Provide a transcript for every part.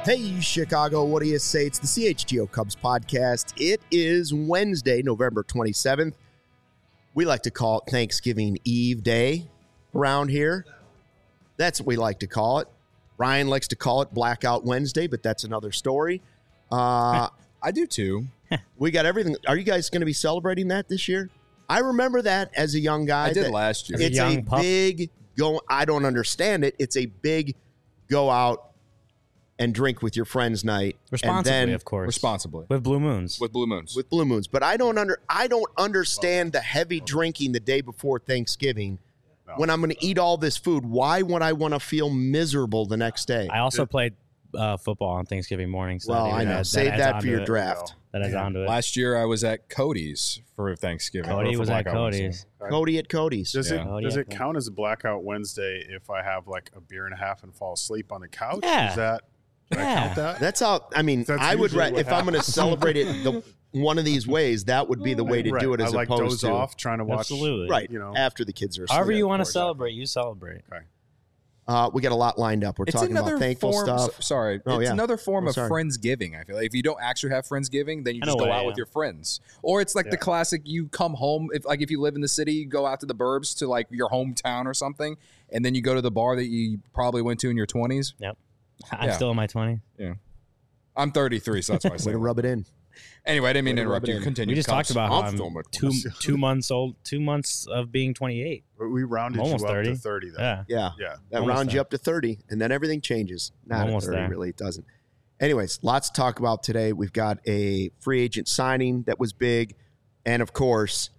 Hey, Chicago, what do you say? It's the CHGO Cubs podcast. It is Wednesday, November 27th. We like to call it Thanksgiving Eve Day around here. That's what we like to call it. Ryan likes to call it Blackout Wednesday, but that's another story. I do too. We got everything. Are you guys going to be celebrating that this year? I remember that as a young guy. I did last year. It's a big go. I don't understand it. It's a big go out and drink with your friends night. Responsibly, and then, of course. Responsibly. With Blue Moons. With Blue Moons. With Blue Moons. But I don't understand the heavy drinking the day before Thanksgiving. No. When I'm going to eat all this food, why would I want to feel miserable the next day? I also played football on Thanksgiving morning. So well, I know. Save that for your draft. That adds on to it. Last year, I was at Cody's for Thanksgiving. Cody was at Cody's. Cody at Cody's. Does it count as a Blackout Wednesday if I have like a beer and a half and fall asleep on the couch? Yeah. Can I count that? That's how, I mean, I would, if I'm going to celebrate it one of these ways, that would be the way to do it as opposed doze to. off trying to watch. Absolutely. Right. After the kids are asleep. However you want to celebrate, you celebrate. Okay. We got a lot lined up. We're talking about thankful stuff. It's another form of Friendsgiving. I feel like if you don't actually have Friendsgiving, then you just go out with your friends. Or it's like the classic, you come home, if you live in the city, you go out to the burbs to like your hometown or something, and then you go to the bar that you probably went to in your 20s. Yep. I'm still in my 20s. Yeah. I'm 33, so that's why I say way to rub it in. Anyway, I didn't mean to interrupt you. Continue. We just talked about how I'm 2 months old, 2 months of being 28. We rounded almost you up 30. to 30, though. Yeah. That rounds you up to 30, and then everything changes. Not almost 30, there. really, it doesn't. Anyways, lots to talk about today. We've got a free agent signing that was big, and of course,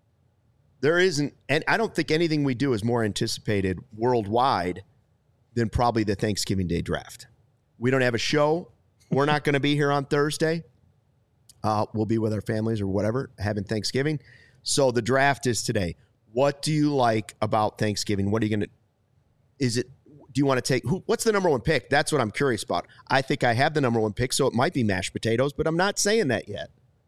there isn't, and I don't think anything we do is more anticipated worldwide than probably the Thanksgiving Day draft. We don't have a show. We're not going to be here on Thursday. We'll be with our families or whatever, having Thanksgiving. So the draft is today. What do you like about Thanksgiving? What are you going to, do you want to take, what's the number one pick? That's what I'm curious about. I think I have the number one pick, so it might be mashed potatoes, but I'm not saying that yet.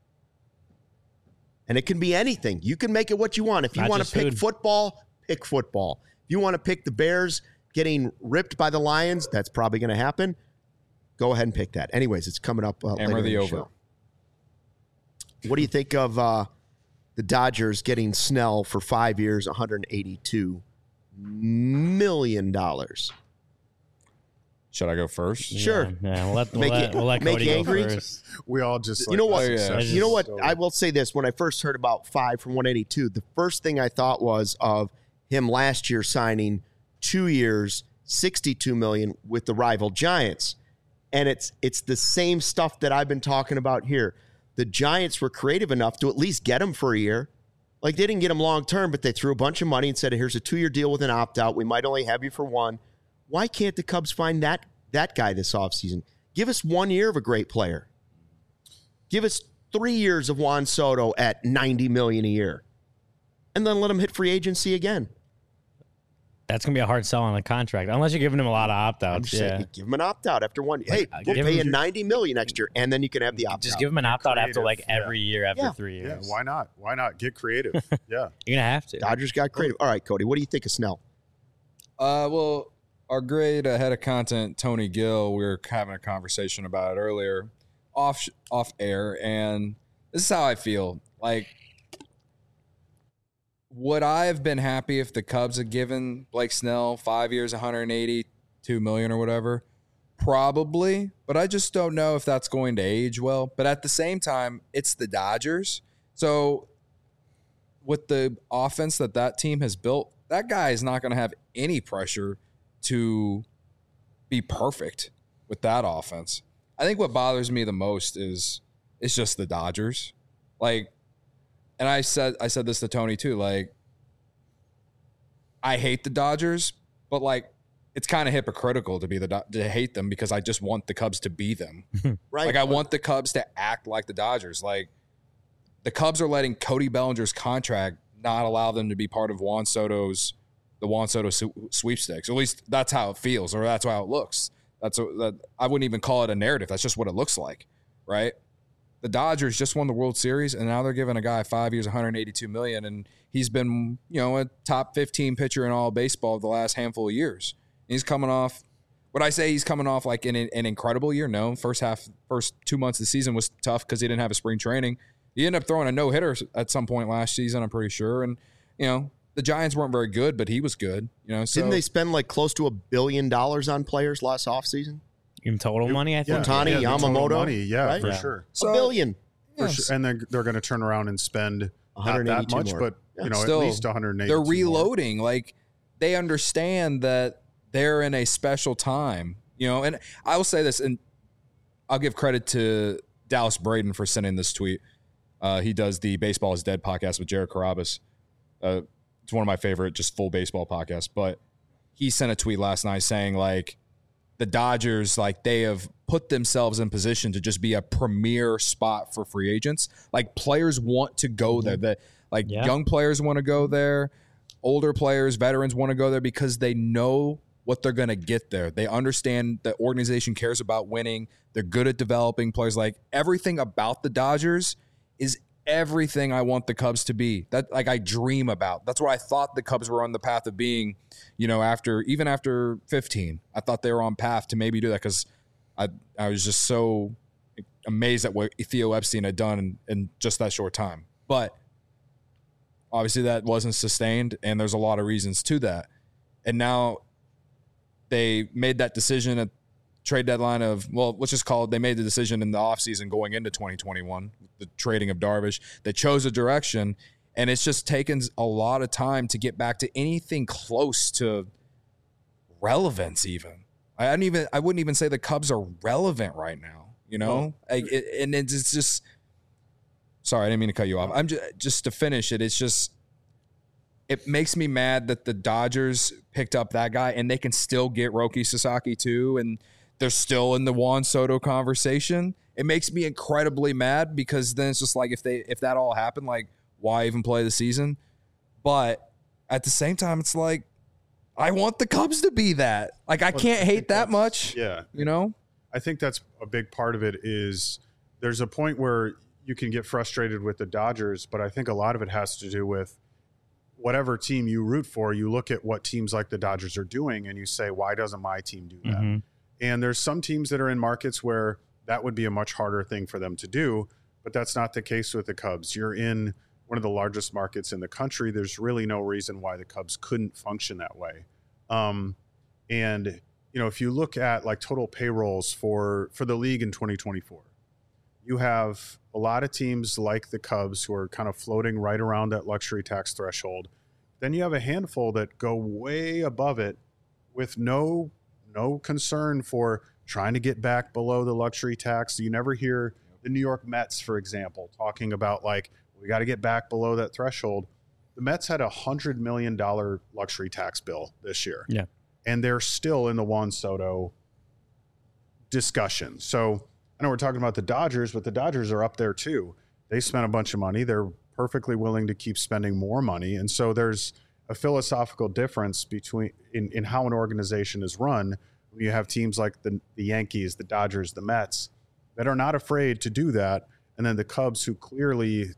And it can be anything. You can make it what you want. If you want to pick football, pick football. If you want to pick the Bears getting ripped by the Lions, that's probably going to happen. Go ahead and pick that. Anyways, it's coming up later in the over. Show. What do you think of the Dodgers getting Snell for 5 years, $182 million? Should I go first? Sure. Yeah, we'll let Cody go first. We all just you know what? You know what? I will say this. When I first heard about 5 for 182, the first thing I thought was of him last year signing 2 years, $62 million with the rival Giants. And it's the same stuff that I've been talking about here. The Giants were creative enough to at least get him for a year. Like, they didn't get him long-term, but they threw a bunch of money and said, here's a 2-year deal with an opt-out. We might only have you for one. Why can't the Cubs find that guy this offseason? Give us 1 year of a great player. Give us 3 years of Juan Soto at $90 million a year. And then let him hit free agency again. That's going to be a hard sell on the contract, unless you're giving him a lot of opt-outs. I'm just saying, give him an opt-out after 1 year. Hey, we'll pay you $90 million next year, and then you can have the opt-out. Just give him an opt-out after every year after 3 years. Yeah, why not? Why not? Get creative. Yeah. You're going to have to. Dodgers got creative. All right, Cody, what do you think of Snell? Well, our great head of content, Tony Gill, we were having a conversation about it earlier off air, and this is how I feel. Like, would I have been happy if the Cubs had given Blake Snell 5 years, $182 million or whatever? Probably, but I just don't know if that's going to age well. But at the same time, it's the Dodgers. So with the offense that team has built, that guy is not going to have any pressure to be perfect with that offense. I think what bothers me the most is it's just the Dodgers. Like, and I said this to Tony too. Like, I hate the Dodgers, but like, it's kind of hypocritical to hate them because I just want the Cubs to be them. Right. Like, I want the Cubs to act like the Dodgers. Like, the Cubs are letting Cody Bellinger's contract not allow them to be part of the Juan Soto sweepstakes. At least that's how it feels, or that's how it looks. I wouldn't even call it a narrative. That's just what it looks like, right? The Dodgers just won the World Series, and now they're giving a guy 5 years, $182 million, and he's been, a top 15 pitcher in all baseball the last handful of years. He's coming off, Would I say he's coming off like an incredible year? No. First 2 months of the season was tough because he didn't have a spring training. He ended up throwing a no-hitter at some point last season, I'm pretty sure. And, the Giants weren't very good, but he was good. So, didn't they spend like close to $1 billion on players last offseason? In total money, I think. Ohtani, Yamamoto. Money, right? for sure. So, $1 billion. For sure. And then they're going to turn around and spend not that much, more. but Still, at least 180. They're reloading. Like, they understand that they're in a special time. And I will say this, and I'll give credit to Dallas Braden for sending this tweet. He does the Baseball is Dead podcast with Jared Carabas. It's one of my favorite just full baseball podcasts. But he sent a tweet last night saying, like, the Dodgers, like, they have put themselves in position to just be a premier spot for free agents. Like, players want to go there. Young players want to go there. Older players, veterans want to go there because they know what they're going to get there. They understand the organization cares about winning. They're good at developing players. Like, everything about the Dodgers is everything I want the Cubs to be. That, like, I dream about. That's what I thought the Cubs were on the path of being, after 15. I thought they were on path to maybe do that because I was just so amazed at what Theo Epstein had done in just that short time. But obviously that wasn't sustained, and there's a lot of reasons to that. And now they made that decision at trade deadline they made the decision in the offseason going into 2021, the trading of Darvish. They chose a direction, and it's just taken a lot of time to get back to anything close to relevance even. I wouldn't even say the Cubs are relevant right now, and it's just – sorry, I didn't mean to cut you off. I'm just to finish it, it's just – it makes me mad that the Dodgers picked up that guy and they can still get Roki Sasaki too, and they're still in the Juan Soto conversation. It makes me incredibly mad because then it's just like if that all happened, like, why even play the season? But at the same time, it's like I want the Cubs to be that. Like, I can't hate that much. Yeah. I think that's a big part of it is there's a point where you can get frustrated with the Dodgers, but I think a lot of it has to do with whatever team you root for. You look at what teams like the Dodgers are doing and you say, why doesn't my team do that? Mm-hmm. And there's some teams that are in markets where that would be a much harder thing for them to do, but that's not the case with the Cubs. You're in one of the largest markets in the country. There's really no reason why the Cubs couldn't function that way. And, if you look at like total payrolls for the league in 2024, you have a lot of teams like the Cubs who are kind of floating right around that luxury tax threshold. Then you have a handful that go way above it with no concern for trying to get back below the luxury tax. You never hear the New York Mets, for example, talking about like, we got to get back below that threshold. The Mets had $100 million luxury tax bill this year. Yeah. And they're still in the Juan Soto discussion. So I know we're talking about the Dodgers, but the Dodgers are up there too. They spent a bunch of money. They're perfectly willing to keep spending more money. And so there's a philosophical difference between in how an organization is run when you have teams like the Yankees, the Dodgers, the Mets that are not afraid to do that. And then the Cubs who clearly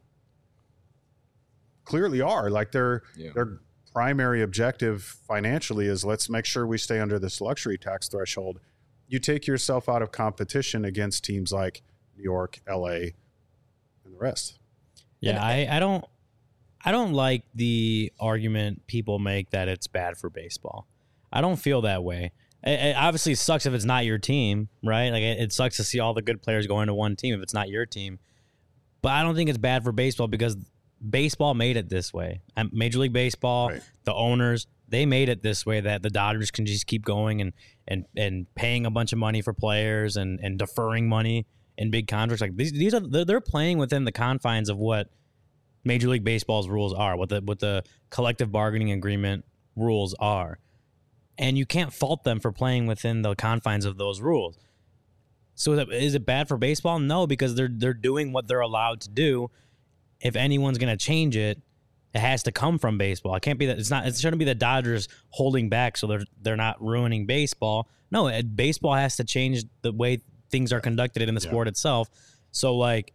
are like their primary objective financially is let's make sure we stay under this luxury tax threshold. You take yourself out of competition against teams like New York, LA, and the rest. Yeah, I don't like the argument people make that it's bad for baseball. I don't feel that way. It obviously sucks if it's not your team, right? Like it sucks to see all the good players go into one team if it's not your team. But I don't think it's bad for baseball because baseball made it this way. Major League Baseball, right. The owners, they made it this way that the Dodgers can just keep going and paying a bunch of money for players and deferring money in big contracts. Like they're playing within the confines of what Major League Baseball's rules are, what the collective bargaining agreement rules are. And you can't fault them for playing within the confines of those rules. So is it bad for baseball? No, because they're doing what they're allowed to do. If anyone's going to change it, it has to come from baseball. It can't be that it shouldn't be the Dodgers holding back so they're not ruining baseball. No, baseball has to change the way things are conducted in the sport itself. So like,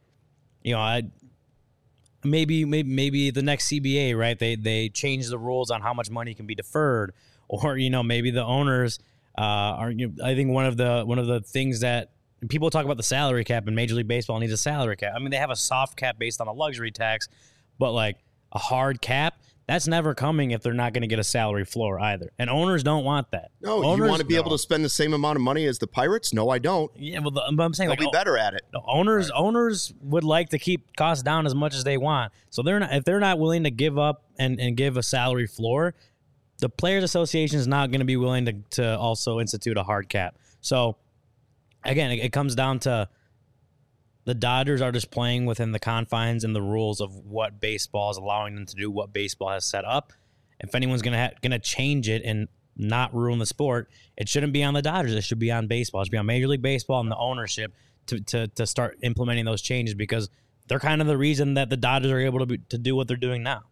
maybe the next CBA, right? They change the rules on how much money can be deferred, or maybe the owners I think one of the things that people talk about the salary cap, and Major League Baseball needs a salary cap. I mean, they have a soft cap based on a luxury tax, but like a hard cap, that's never coming if they're not going to get a salary floor either. And owners don't want that. No, owners, you want to be able to spend the same amount of money as the Pirates? No, I don't. Yeah, well, but I'm saying They'll be better at it. Owners would like to keep costs down as much as they want. So if they're not willing to give up and give a salary floor, the Players Association is not going to be willing to also institute a hard cap. So again, it comes down to the Dodgers are just playing within the confines and the rules of what baseball is allowing them to do, what baseball has set up. If anyone's gonna change it and not ruin the sport, it shouldn't be on the Dodgers. It should be on baseball. It should be on Major League Baseball and the ownership to start implementing those changes, because they're kind of the reason that the Dodgers are able to do what they're doing now.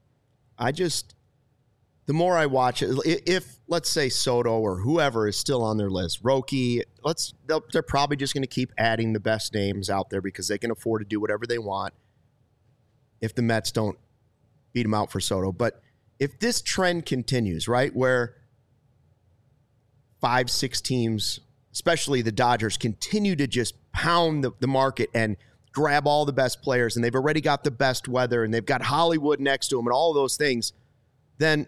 The more I watch it, if let's say Soto or whoever is still on their list, Roki, they're probably just going to keep adding the best names out there because they can afford to do whatever they want if the Mets don't beat them out for Soto. But if this trend continues, right, where 5-6 teams, especially the Dodgers, continue to just pound the market and grab all the best players, and they've already got the best weather, and they've got Hollywood next to them and all of those things, then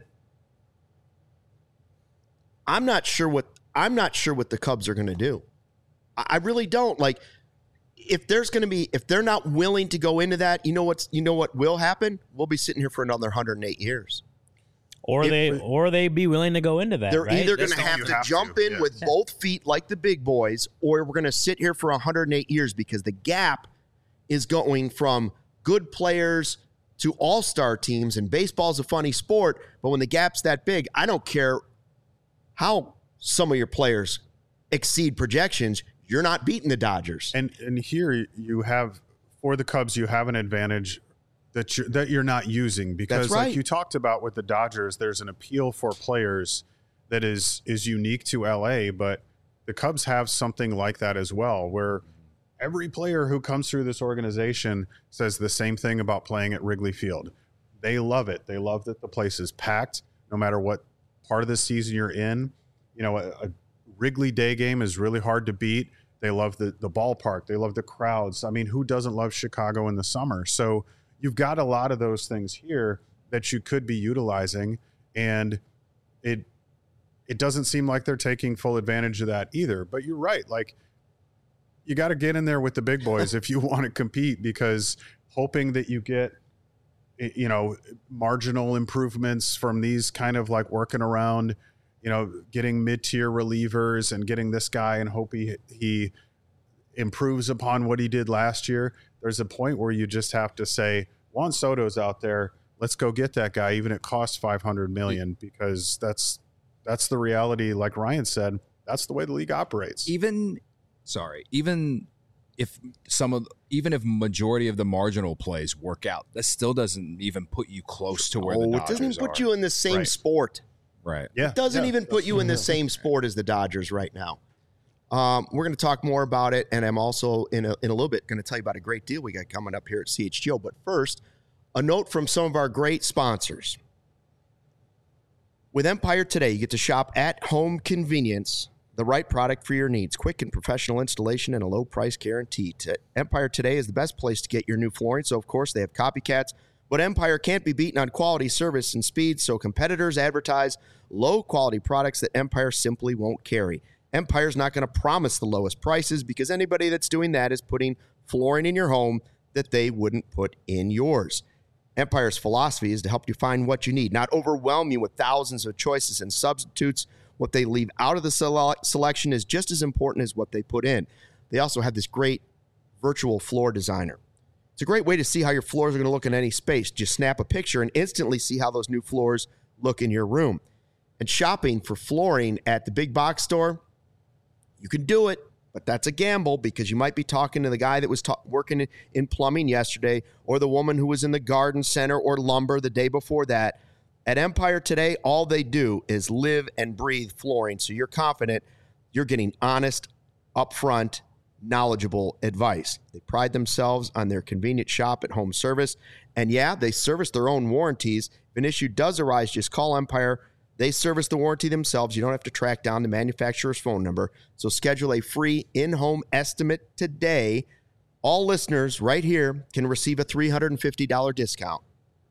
I'm not sure what the Cubs are going to do. I really don't. Like, if they're not willing to go into that, you know what will happen? We'll be sitting here for another 108 years. Or they be willing to go into that. They're right? either going to have to jump in with both feet like the big boys, or we're going to sit here for 108 years, because the gap is going from good players to all-star teams, and baseball's a funny sport, but when the gap's that big, I don't care how some of your players exceed projections, you're not beating the Dodgers. And here you have, for the Cubs, you have an advantage that you're not using, because That's right. Like you talked about with the Dodgers, there's an appeal for players that is unique to LA, but the Cubs have something like that as well, where every player who comes through this organization says the same thing about playing at Wrigley Field. They love it. They love that the place is packed no matter what part of the season you're in. You know, a Wrigley Day game is really hard to beat. They love the ballpark. They love the crowds. I mean, who doesn't love Chicago in the summer? So you've got a lot of those things here that you could be utilizing, and it doesn't seem like they're taking full advantage of that either. But you're right. Like, you got to get in there with the big boys if you want to compete, because hoping that you get, you know, marginal improvements from these kind of like working around, you know, getting mid-tier relievers and getting this guy and hope he improves upon what he did last year. There's a point where you just have to say, Juan Soto's out there, let's go get that guy, even if it costs $500 million, because that's the reality. Like Ryan said, that's the way the league operates. Even if majority of the marginal plays work out, that still doesn't even put you close to where the Dodgers are. It doesn't put you in the same sport. Right. Yeah. It doesn't even put you in the same sport as the Dodgers right now. We're going to talk more about it, and I'm also in a little bit going to tell you about a great deal we got coming up here at CHGO. But first, a note from some of our great sponsors. With Empire Today, you get to shop at home convenience, the right product for your needs, quick and professional installation, and a low price guarantee. Empire Today is the best place to get your new flooring, so of course they have copycats, but Empire can't be beaten on quality, service, and speed, so competitors advertise low-quality products that Empire simply won't carry. Empire's not going to promise the lowest prices, because anybody that's doing that is putting flooring in your home that they wouldn't put in yours. Empire's philosophy is to help you find what you need, not overwhelm you with thousands of choices and substitutes. What they leave out of the selection is just as important as what they put in. They also have this great virtual floor designer. It's a great way to see how your floors are going to look in any space. Just snap a picture and instantly see how those new floors look in your room. And shopping for flooring at the big box store, you can do it, but that's a gamble, because you might be talking to the guy that was working in plumbing yesterday, or the woman who was in the garden center or lumber the day before that. At Empire Today, all they do is live and breathe flooring, so you're confident you're getting honest, upfront, knowledgeable advice. They pride themselves on their convenient shop-at-home service, and yeah, they service their own warranties. If an issue does arise, just call Empire. They service the warranty themselves. You don't have to track down the manufacturer's phone number. So schedule a free in-home estimate today. All listeners right here can receive a $350 discount.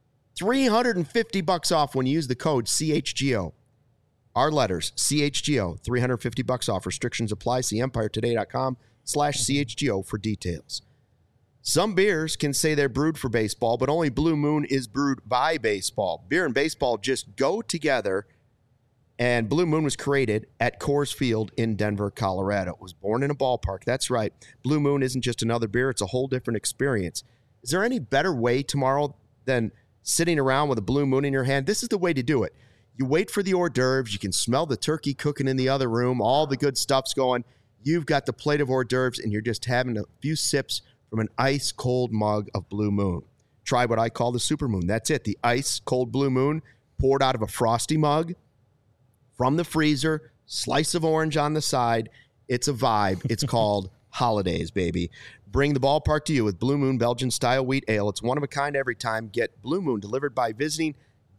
$350 off when you use the code CHGO. Our letters, CHGO, $350 off. Restrictions apply. See EmpireToday.com/CHGO for details. Some beers can say they're brewed for baseball, but only Blue Moon is brewed by baseball. Beer and baseball just go together, and Blue Moon was created at Coors Field in Denver, Colorado. It was born in a ballpark. That's right. Blue Moon isn't just another beer. It's a whole different experience. Is there any better way tomorrow than sitting around with a Blue Moon in your hand? This is the way to do it. You wait for the hors d'oeuvres. You can smell the turkey cooking in the other room. All the good stuff's going. You've got the plate of hors d'oeuvres, and you're just having a few sips from an ice-cold mug of Blue Moon. Try what I call the Super Moon. That's it, the ice-cold Blue Moon poured out of a frosty mug from the freezer, slice of orange on the side. It's a vibe. It's called Holidays, baby. Bring the ballpark to you with Blue Moon Belgian-style wheat ale. It's one of a kind every time. Get Blue Moon delivered by visiting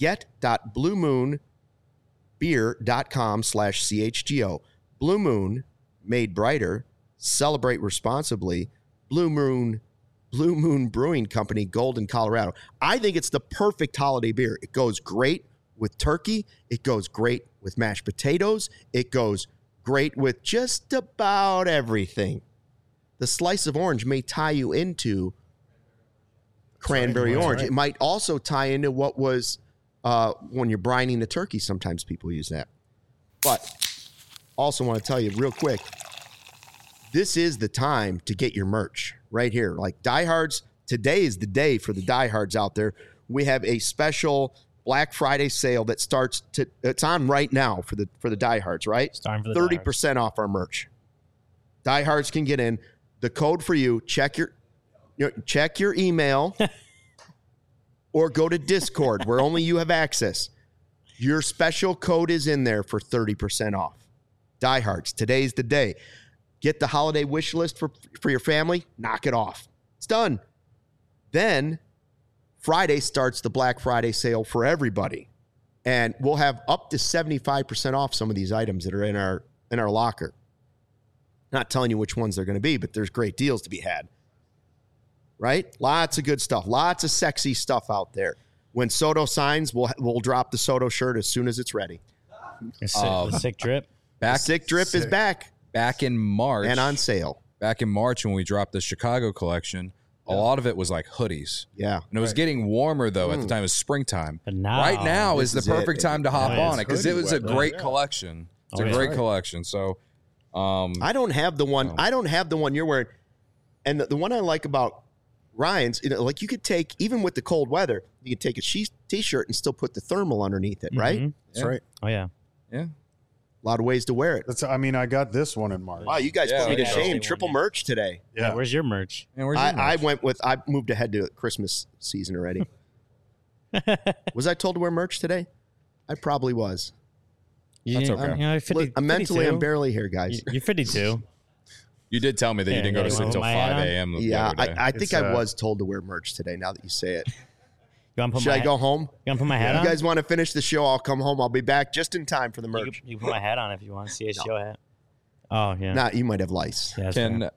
get.bluemoonbeer.com/CHGO. Blue Moon, made brighter. Celebrate responsibly. Blue Moon Brewing Company, Golden, Colorado. I think it's the perfect holiday beer. It goes great with turkey. It goes great with mashed potatoes. It goes great with just about everything. The slice of orange may tie you into cranberry orange. Right. It might also tie into what was when you're brining the turkey. Sometimes people use that. But also want to tell you real quick, this is the time to get your merch right here. Like Diehards, today is the day for the diehards out there. We have a special Black Friday sale that starts it's on right now for the diehards, right? It's time for the 30% off our merch. Diehards can get in. The code for you, check your email or go to Discord where only you have access. Your special code is in there for 30% off. Diehards, today's the day. Get the holiday wish list for your family. Knock it off. It's done. Then Friday starts the Black Friday sale for everybody. And we'll have up to 75% off some of these items that are in our locker. Not telling you which ones they're going to be, but there's great deals to be had. Right? Lots of good stuff. Lots of sexy stuff out there. When Soto signs, we'll drop the Soto shirt as soon as it's ready. The sick drip. Sick drip is back. Back in March. And on sale. Back in March when we dropped the Chicago collection, a lot of it was like hoodies. Yeah. And it was getting warmer, though, at the time. It was springtime. But now, right now is the perfect time to hop on it because it was a great yeah. collection. It's a great collection. So I don't have the one. I don't have the one you're wearing. And the one I like about Ryan's, like you could take, even with the cold weather, you could take a t-shirt and still put the thermal underneath it, right? That's right. Oh, yeah. yeah. A lot of ways to wear it. I got this one in March. Wow, you guys put me to yeah. shame. Triple merch today. Yeah. Where's your merch? And where's your merch? I moved ahead to Christmas season already. Was I told to wear merch today? I probably was. That's okay. You're 50, Mentally, 52. I'm barely here, guys. You're 52. You did tell me that you didn't go to sleep until 5 a.m. Yeah, the other day. I think I was told to wear merch today, now that you say it. You want to put Should I go home? You want to put my hat on? You guys want to finish the show? I'll come home. I'll be back just in time for the merch. You can put my hat on if you want. CHGO hat. Oh, yeah. Nah, you might have lice. Yeah, that's fair.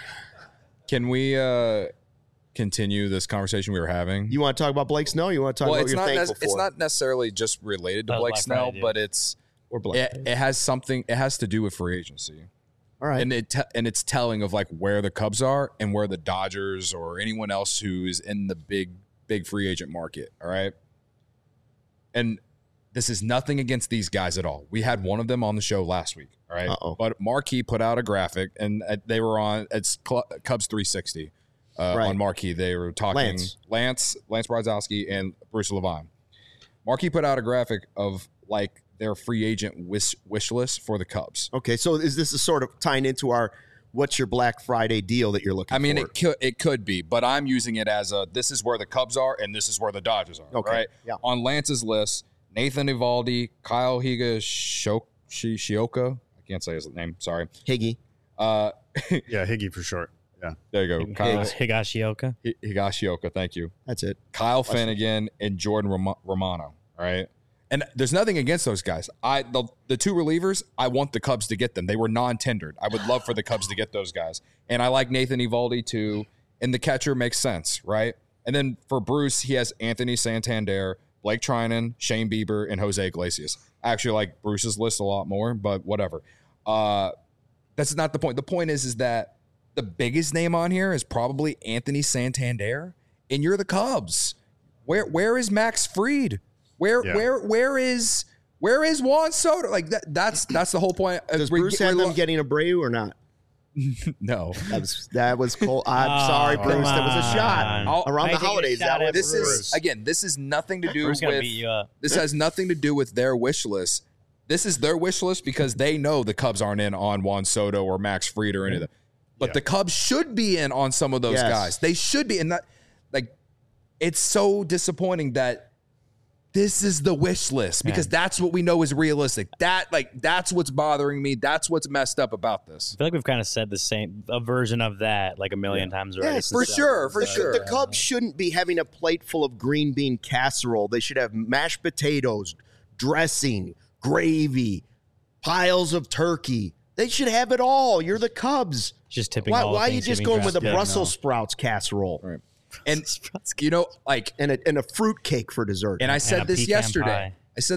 Can we continue this conversation we were having? You want to talk about Blake Snell? You want to talk about what you're thankful for? It's not necessarily just related to Blake Black Snell, Friday, but it's Or Blake. it has something. It has to do with free agency. All right. And it's telling of like where the Cubs are and where the Dodgers or anyone else who's in the big free agent market. All right. And this is nothing against these guys at all. We had one of them on the show last week. All right. But Marquee put out a graphic and they were on Cubs 360 on Marquee. They were talking Lance Brzezowski and Bruce Levine. Marquee put out a graphic of like their free agent wish list for the Cubs. Okay, so is this a sort of tying into our what's your Black Friday deal that you're looking for? I mean, it could be, but I'm using it as this is where the Cubs are and this is where the Dodgers are. Okay, right? yeah. On Lance's list, Nathan Eovaldi, Kyle Higashioka. I can't say his name. Sorry. Higgy. Yeah, Higgy for short. Yeah. There you go. Kyle Higashioka. Higashioka. Thank you. That's it. Kyle Finnegan and Jordan Romano. All right. And there's nothing against those guys. The two relievers, I want the Cubs to get them. They were non-tendered. I would love for the Cubs to get those guys. And I like Nathan Eovaldi too. And the catcher makes sense, right? And then for Bruce, he has Anthony Santander, Blake Trinan, Shane Bieber, and Jose Iglesias. I actually like Bruce's list a lot more, but whatever. That's not the point. The point is that the biggest name on here is probably Anthony Santander, and you're the Cubs. Where is Max Fried? Where is Juan Soto? Like that's the whole point. Does Bruce have them getting Abreu or not? No, that was cool. I'm sorry, Bruce. That was a shot around the holidays. This is nothing to do with. This has nothing to do with their wish list. This is their wish list because they know the Cubs aren't in on Juan Soto or Max Fried or any of that. But the Cubs should be in on some of those guys. They should be in that. Like, it's so disappointing that this is the wish list because that's what we know is realistic. That's what's bothering me. That's what's messed up about this. I feel like we've kind of said a version of that like a million times already. Yes, for sure. The Cubs shouldn't be having a plate full of green bean casserole. They should have mashed potatoes, dressing, gravy, piles of turkey. They should have it all. You're the Cubs. Just tipping. Why are you just going with a Brussels sprouts casserole? Right. And you know, like and a fruit cake for dessert. And I said this yesterday.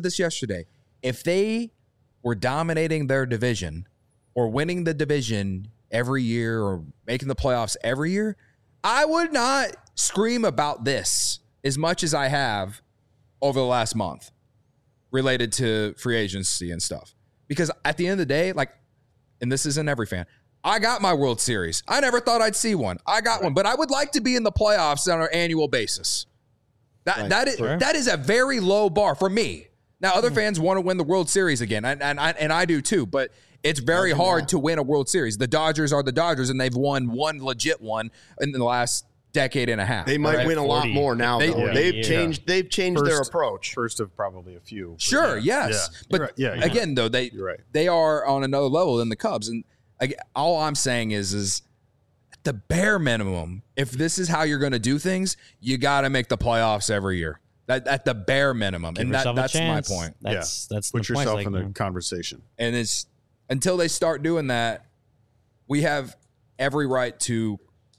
If they were dominating their division or winning the division every year or making the playoffs every year, I would not scream about this as much as I have over the last month related to free agency and stuff. Because at the end of the day, like, and this isn't every fan, I got my World Series. I never thought I'd see one. I got one, but I would like to be in the playoffs on an annual basis. That is a very low bar for me. Now, other fans want to win the World Series again, and I do too, but it's very hard to win a World Series. The Dodgers are the Dodgers, and they've won one legit one in the last decade and a half. They might win a lot more now. They've changed their approach. First of probably a few. Sure, yes. But again, though, they are on another level than the Cubs. And all I'm saying is at the bare minimum, if this is how you're going to do things, you got to make the playoffs every year. At the bare minimum. Give and that's my point. That's Put the yourself point, in the conversation. And it's until they start doing that, we have every right to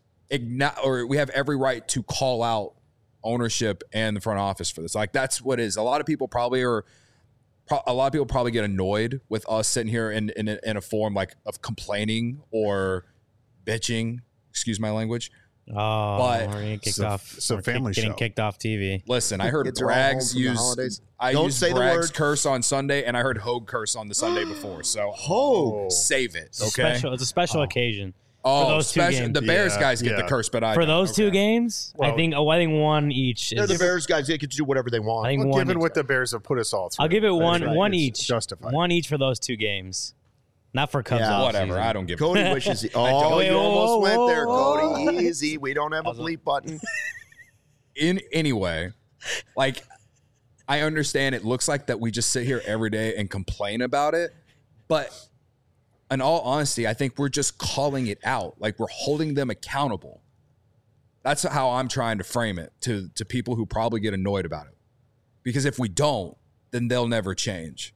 call out ownership and the front office for this. Like, that's what it is. A lot of people probably get annoyed with us sitting here in a form like of complaining or bitching. Excuse my language. Oh, but we're getting kicked off. So family getting show. kicked off TV. Listen, I heard Bragg's use. I Don't used say the Bragg's word. curse on Sunday, and I heard Hogue curse on the Sunday before. So Hogue. save it, It's a okay? it's a special occasion. Oh, for those two games. The Bears guys get the curse, but I For don't. those two games, I think one each. They're the Bears guys. They get to do whatever they want. I think Well, one given each. what the Bears have put us all through, I'll give it one it's each. Justified. One each for those two games. Not for Cubs. Yeah, Whatever, offseason. I don't give. Cody wishes. You almost went there, Cody. Easy. We don't have a bleep button. Anyway, like, I understand it looks like that we just sit here every day and complain about it, but in all honesty, I think we're just calling it out. Like, we're holding them accountable. That's how I'm trying to frame it to people who probably get annoyed about it. Because if we don't, then they'll never change.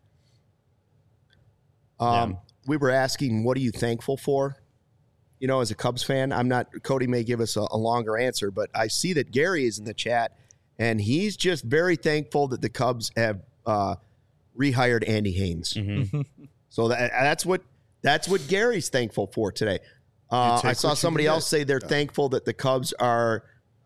We were asking, what are you thankful for? You know, as a Cubs fan, Cody may give us a longer answer, but I see that Gary is in the chat, and he's just very thankful that the Cubs have rehired Andy Haynes. Mm-hmm. So that's what Gary's thankful for today. I saw somebody else say they're thankful that the Cubs are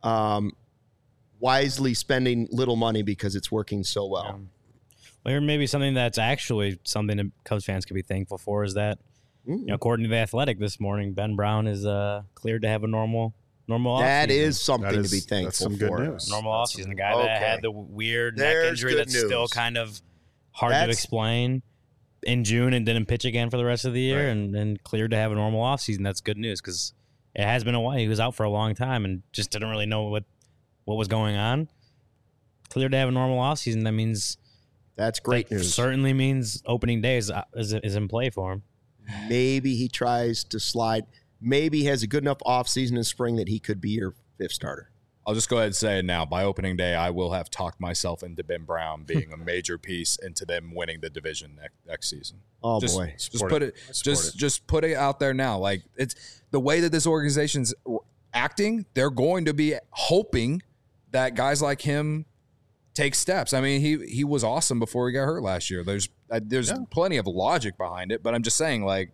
wisely spending little money because it's working so well. Or maybe something that's actually something that Cubs fans could be thankful for is that, according to The Athletic this morning, Ben Brown is cleared to have a normal offseason. That is something to be thankful that's some for. good news. Normal offseason. The guy that had the weird neck injury good that's news. still kind of hard to explain in June and didn't pitch again for the rest of the year and cleared to have a normal offseason. That's good news because it has been a while. He was out for a long time and just didn't really know what was going on. Cleared to have a normal offseason. That means that's great news. Certainly means opening day is in play for him. Maybe he tries to slide. Maybe he has a good enough offseason in spring that he could be your fifth starter. I'll just go ahead and say it now. By opening day, I will have talked myself into Ben Brown being a major piece into them winning the division next season. Oh just, boy. Just put it just put it out there now. Like, it's the way that this organization's acting, they're going to be hoping that guys like him take steps. I mean, he was awesome before he got hurt last year. There's plenty of logic behind it, but I'm just saying, like,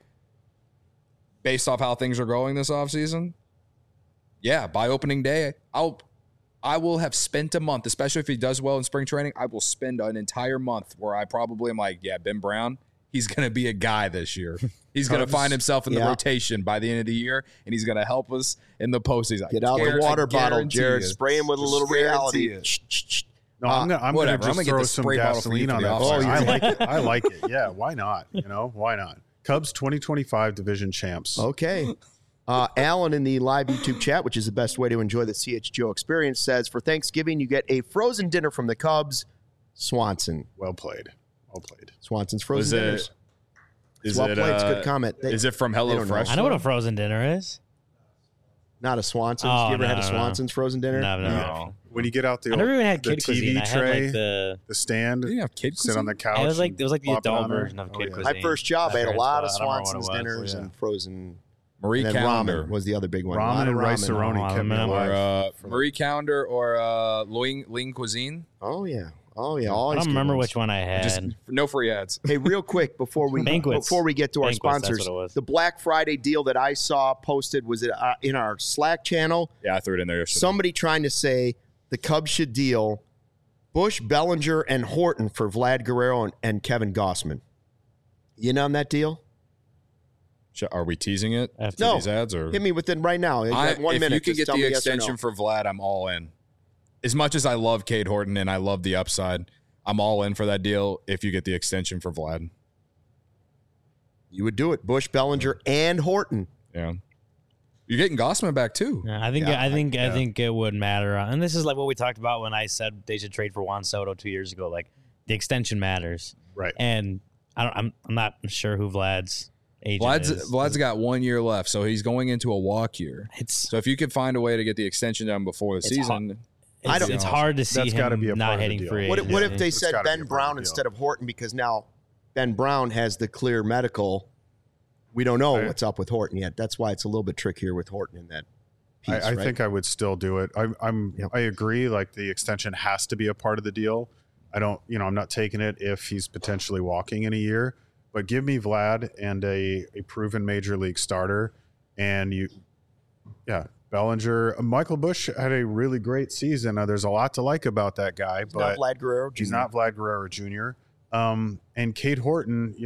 based off how things are going this offseason, yeah, by opening day, I will have spent a month, especially if he does well in spring training. I will spend an entire month where I probably am like, yeah, Ben Brown, he's going to be a guy this year. He's going to find himself in the rotation by the end of the year, and he's going to help us in the postseason. Get out the water bottle, Jared. Spray him with a little reality. No, I'm going to just throw some gasoline on that. I like it. I like it. Yeah, why not? Why not? Cubs 2025 division champs. Okay. Alan in the live YouTube chat, which is the best way to enjoy the CHGO experience, says, for Thanksgiving, you get a frozen dinner from the Cubs. Swanson. Well played. Swanson's frozen dinners. Is well it, played. It's good comment. Is it from HelloFresh? I know what a frozen dinner is. Not a Swanson's. Oh, you ever had a no. Swanson's frozen dinner? No. When you get out the I never even had the kid cuisine. TV I tray, had like the stand, Did you have kid sit on the couch. it was like the and adult on there. version of kid cuisine. My first job, I had a My lot of parents bought it. I don't Swanson's remember what it was. dinners and frozen. Marie And then Calendar. ramen was the other big one. Ramen and rice ramen. aroni kept me alive. Or Marie Calendar or Lean Cuisine. Oh, yeah. Always I good don't remember ones. which one I had. Just no free ads. Hey, real quick before we Banquets. get to our Banquets, that's sponsors, what it was. the Black Friday deal that I saw posted was it in our Slack channel. Yeah, I threw it in there yesterday. Somebody trying to say the Cubs should deal Bush, Bellinger, and Horton for Vlad Guerrero and Kevin Gossman. You in on that deal? Are we teasing it after No. these ads? Or Hit me within right now. You got 1 minute. If you can Just get tell the me yes or no. extension for Vlad, I'm all in. As much as I love Cade Horton and I love the upside, I'm all in for that deal if you get the extension for Vlad. You would do it. Bush, Bellinger, and Horton. Yeah. You're getting Gossman back too. Yeah, I think it would matter. And this is like what we talked about when I said they should trade for Juan Soto 2 years ago. Like, the extension matters. Right. And I'm not sure who Vlad's agent is. Vlad's got 1 year left, so he's going into a walk year. It's So if you could find a way to get the extension done before the season, it's hard to see That's gotta him be a part not of the hitting deal. free What agency. if they It's said gotta be Ben a part Brown of the deal. instead of Horton because now Ben Brown has the clear medical. We don't know what's up with Horton yet. That's why it's a little bit trickier with Horton in that piece, I right? think I would still do it. I agree. Like, the extension has to be a part of the deal. I'm not taking it if he's potentially walking in a year, but give me Vlad and a proven major league starter. And Bellinger, Michael Bush had a really great season. There's a lot to like about that guy, He's but not Vlad Guerrero Jr. he's not Vlad Guerrero Jr. And Cade Horton,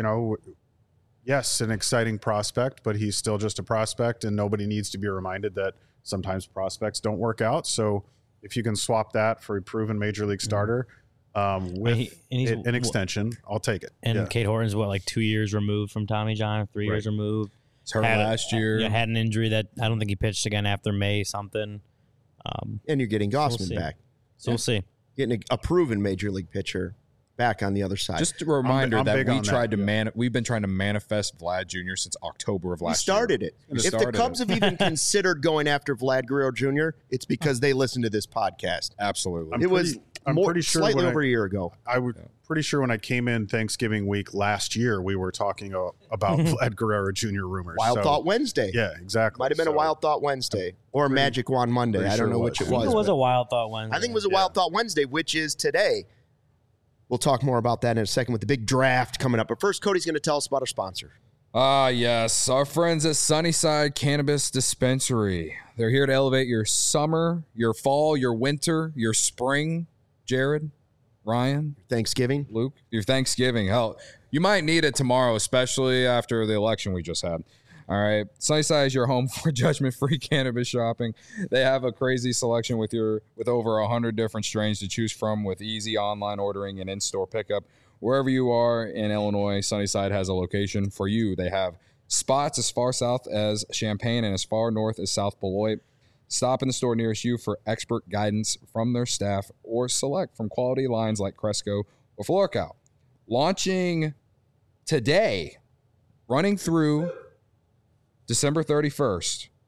yes, an exciting prospect, but he's still just a prospect, and nobody needs to be reminded that sometimes prospects don't work out. So if you can swap that for a proven major league starter with an extension, I'll take it. And Cade Horton's like 2 years removed from Tommy John, 3 years removed. it's hurt last year. Yeah, had an injury that I don't think he pitched again after May something. And you're getting Gossman see. back. So we'll see. Getting a proven major league pitcher back on the other side. Just a reminder I'm that big we on tried that, to we've been trying to manifest Vlad Jr. since October of we last year. started it. We If the started Cubs it. have even considered going after Vlad Guerrero Jr., it's because they listened to this podcast. Absolutely. I'm pretty sure slightly over a year ago. I was pretty sure when I came in Thanksgiving week last year, we were talking about Vlad Guerrero Jr. rumors. Wild Thought Wednesday. Yeah, exactly. Might have been a Wild Thought Wednesday or a Magic Wand Monday. pretty I don't sure know it which it was. I think was. it was but a Wild Thought Wednesday. I think it was a Wild Thought Wednesday, which is today. We'll talk more about that in a second with the big draft coming up. But first, Cody's going to tell us about our sponsor. Yes. Our friends at Sunnyside Cannabis Dispensary. They're here to elevate your summer, your fall, your winter, your spring. Jared, Ryan, Thanksgiving. Luke, your Thanksgiving. Hell, you might need it tomorrow, especially after the election we just had. All right. Sunnyside is your home for judgment-free cannabis shopping. They have a crazy selection with over 100 different strains to choose from with easy online ordering and in-store pickup. Wherever you are in Illinois, Sunnyside has a location for you. They have spots as far south as Champaign and as far north as South Beloit. Stop in the store nearest you for expert guidance from their staff or select from quality lines like Cresco or Florcal. Launching today, running through December 31st,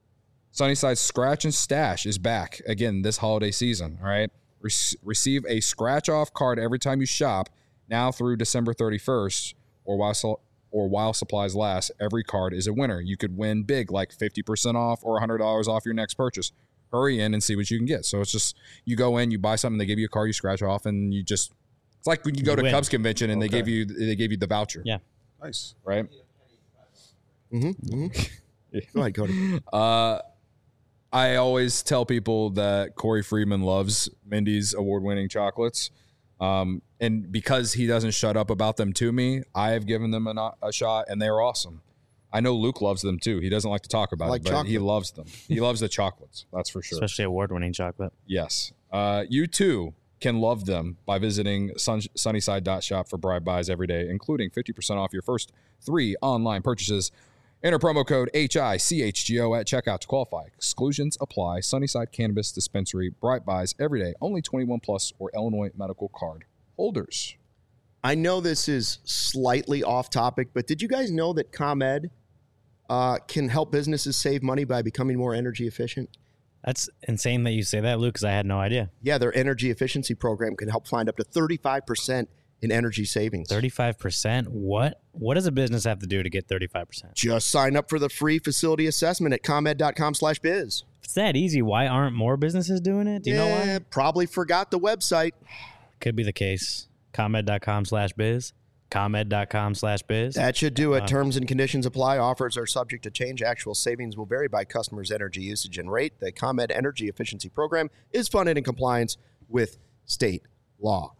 Sunnyside Scratch and Stash is back again this holiday season. All right. Receive a scratch-off card every time you shop now through December 31st or while supplies last. Every card is a winner. You could win big, like 50% off or $100 off your next purchase. Hurry in and see what you can get. So it's just you go in, you buy something, they give you a card, you scratch off, and you just it's like when you go to win. Cubs convention and they gave you the voucher. Yeah. Nice. Right? Mm-hmm. Go ahead, Cody. I always tell people that Corey Freeman loves Mindy's award-winning chocolates. And because he doesn't shut up about them to me, I have given them a shot, and they're awesome. I know Luke loves them, too. He doesn't like to talk about it, but he loves them. He loves the chocolates, that's for sure. Especially award-winning chocolate. Yes. You, too, can love them by visiting sunnyside.shop for Bribe Buys every day, including 50% off your first 3 online purchases. Enter promo code HICHGO at checkout to qualify. Exclusions apply. Sunnyside Cannabis Dispensary. Bright Buys every day. Only 21 plus or Illinois medical card holders. I know this is slightly off topic, but did you guys know that ComEd can help businesses save money by becoming more energy efficient? That's insane that you say that, Luke, because I had no idea. Yeah, their energy efficiency program can help find up to 35% in energy savings. 35%? What does a business have to do to get 35%? Just sign up for the free facility assessment at ComEd.com/biz. If it's that easy, why aren't more businesses doing it? Do you know why? Probably forgot the website. Could be the case. ComEd.com/biz. ComEd.com/biz. That should do it. Terms and conditions apply. Offers are subject to change. Actual savings will vary by customers' energy usage and rate. The ComEd Energy Efficiency Program is funded in compliance with state law.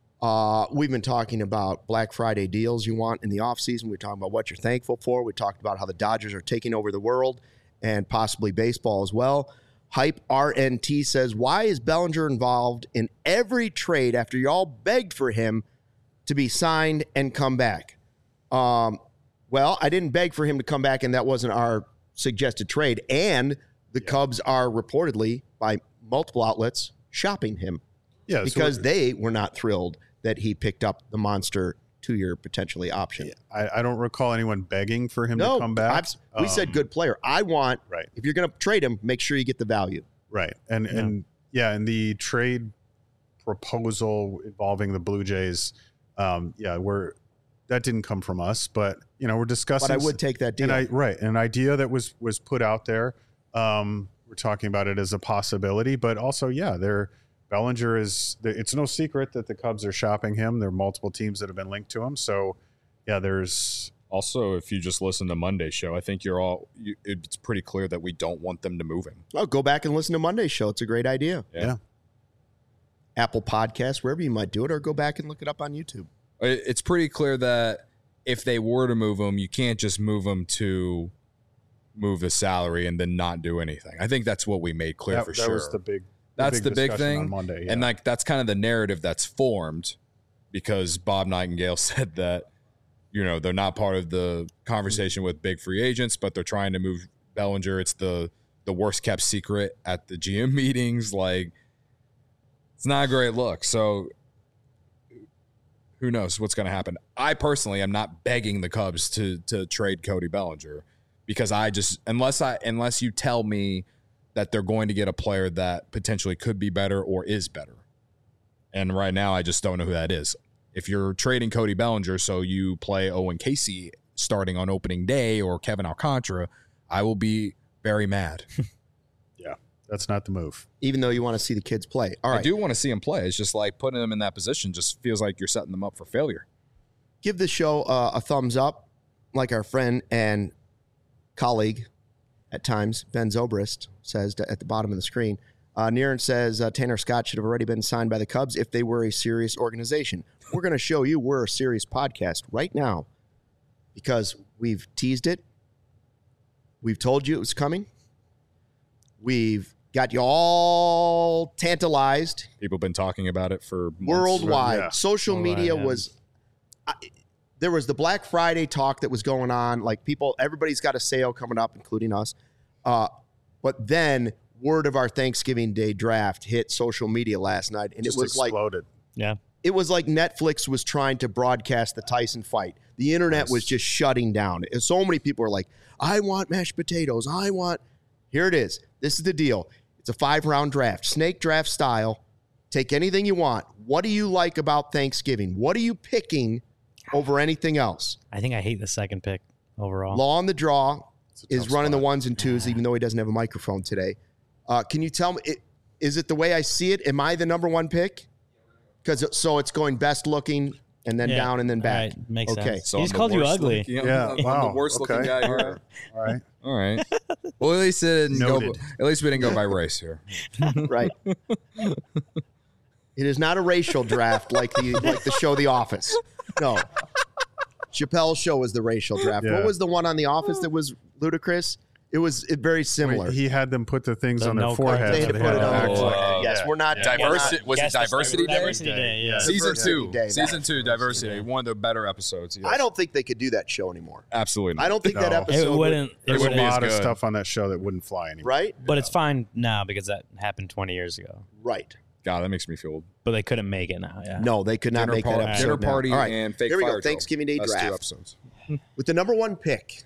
We've been talking about Black Friday deals you want in the offseason. We're talking about what you're thankful for. We talked about how the Dodgers are taking over the world and possibly baseball as well. Hype RNT says, why is Bellinger involved in every trade after y'all begged for him to be signed and come back? Well, I didn't beg for him to come back, and that wasn't our suggested trade. And the Cubs are reportedly, by multiple outlets, shopping him. Yeah, because they were not thrilled that he picked up the monster 2-year potentially option. Yeah, I don't recall anyone begging for him to come back. We said good player. I want, right. If you're going to trade him, make sure you get the value. Right. And the trade proposal involving the Blue Jays, that didn't come from us, but we're discussing. But I would take that deal. An idea that was put out there. We're talking about it as a possibility, but also, Bellinger it's no secret that the Cubs are shopping him. There are multiple teams that have been linked to him. So, there's also, if you just listen to Monday's show, I think it's pretty clear that we don't want them to move him. Oh, go back and listen to Monday's show. It's a great idea. Yeah. Apple Podcasts, wherever you might do it, or go back and look it up on YouTube. It's pretty clear that if they were to move him, you can't just move him to move the salary and then not do anything. I think that's what we made clear for sure. That was the big. That's the big thing on Monday, yeah. And that's kind of the narrative that's formed because Bob Nightingale said that, they're not part of the conversation with big free agents, but they're trying to move Bellinger. It's the worst kept secret at the GM meetings. Like, it's not a great look. So who knows what's going to happen? I personally am not begging the Cubs to trade Cody Bellinger because unless you tell me that they're going to get a player that potentially could be better or is better. And right now, I just don't know who that is. If you're trading Cody Bellinger so you play Owen Casey starting on opening day or Kevin Alcantara, I will be very mad. Yeah, that's not the move. Even though you want to see the kids play. All right. I do want to see them play. It's just like putting them in that position just feels like you're setting them up for failure. Give the show a thumbs up, like our friend and colleague at times, Ben Zobrist, says at the bottom of the screen. Niren says Tanner Scott should have already been signed by the Cubs if they were a serious organization. We're going to show you we're a serious podcast right now because we've teased it. We've told you it was coming. We've got you all tantalized. People have been talking about it for months. Worldwide. Yeah. Social media was... there was the Black Friday talk that was going on. Like everybody's got a sale coming up, including us. But then word of our Thanksgiving Day draft hit social media last night. And Just it was exploded. it was like Netflix was trying to broadcast the Tyson fight. The internet was just shutting down. And so many people were like, I want mashed potatoes. Here it is. This is the deal. It's a 5-round draft, snake draft style. Take anything you want. What do you like about Thanksgiving? What are you picking over anything else? I think I hate the second pick overall. Law on the Draw is tough running the spot. ones and twos, even though he doesn't have a microphone today. Can you tell me, is it the way I see it? Am I the number one pick? So it's going best looking and then down and then back. Right, makes Okay. sense. So He I'm just the called you worst ugly. looking- Yeah, I'm wow, the worst looking okay. guy here. All right. All right. Well, at least it didn't go. Noted. At least we didn't go by race here. Right. It is not a racial draft like the show The Office. No. Chappelle's show was the racial draft. Yeah. What was the one on The Office that was ludicrous? It was very similar. Wait, he had them put the things The on their no forehead. They had so to they put it had to on. act Oh, like- Yes, we're not Diversity was it Guess this Diversity Day? Diversity Day, yeah. Season Diversity 2. Day. Season 2, Diversity. One of the better episodes. Yes. I don't think they could do that show anymore. Absolutely not. I don't think that No. episode It wouldn't. There's would a be as lot of good. stuff on that show that wouldn't fly anymore. right? But it's fine now because that happened 20 years ago. Right. God, that makes me feel But they couldn't make it now. Yeah. No, they could not make that episode. dinner now. party All right. and fake Here we fire go. drill. Thanksgiving Day That's 2 draft. episodes. With the number one pick,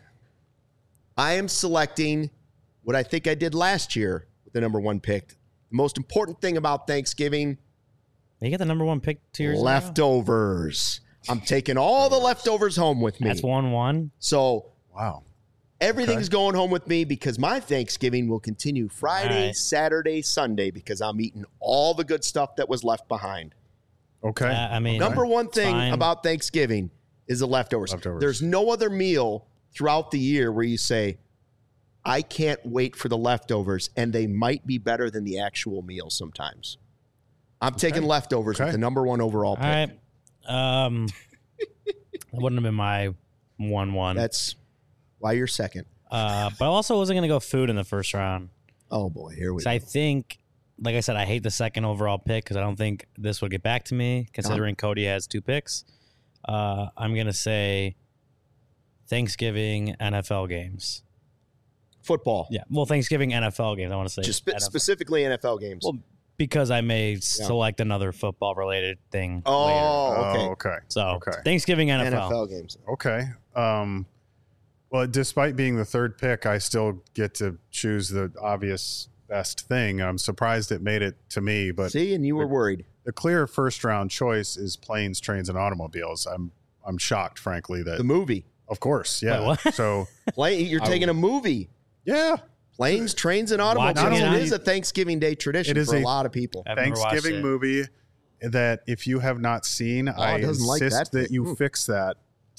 I am selecting what I think I did last year with the number one pick. The most important thing about Thanksgiving, You got the number one pick 2 years ago? leftovers. I'm taking all the leftovers home with me. That's 1-1. So Wow. everything's going home with me because my Thanksgiving will continue Friday, All right. Saturday, Sunday because I'm eating all the good stuff that was left behind. Okay. I mean, Number one thing fine. about Thanksgiving is the leftovers. Leftovers. There's no other meal throughout the year where you say, I can't wait for the leftovers, and they might be better than the actual meal sometimes. I'm taking leftovers with Okay. the number one overall pick. All right. That wouldn't have been my 1-1. That's why you're second. But I also wasn't going to go food in the first round. Oh, boy, here we So go. I think, like I said, I hate the second overall pick because I don't think this would get back to me, considering Cody has 2 picks. I'm going to say Thanksgiving NFL games. Football. Yeah. Well, Thanksgiving NFL games, I want to say. Just NFL. specifically NFL games. Well, because I may select another football-related thing later. oh, okay. Oh, okay. So, Okay. Thanksgiving NFL. NFL games. Okay. Well, despite being the third pick, I still get to choose the obvious best thing. I'm surprised it made it to me, but See, and you were worried. the clear first round choice is planes, trains, and automobiles. I'm shocked, frankly, that The movie. of course, yeah. Wait, what? So You're taking a movie. yeah, Planes, trains, and automobiles. Watching it It on- is a Thanksgiving Day tradition It is for a a- lot of people. I've never watched Thanksgiving it. movie that if you have not seen, I it doesn't like insist that that you thing. fix that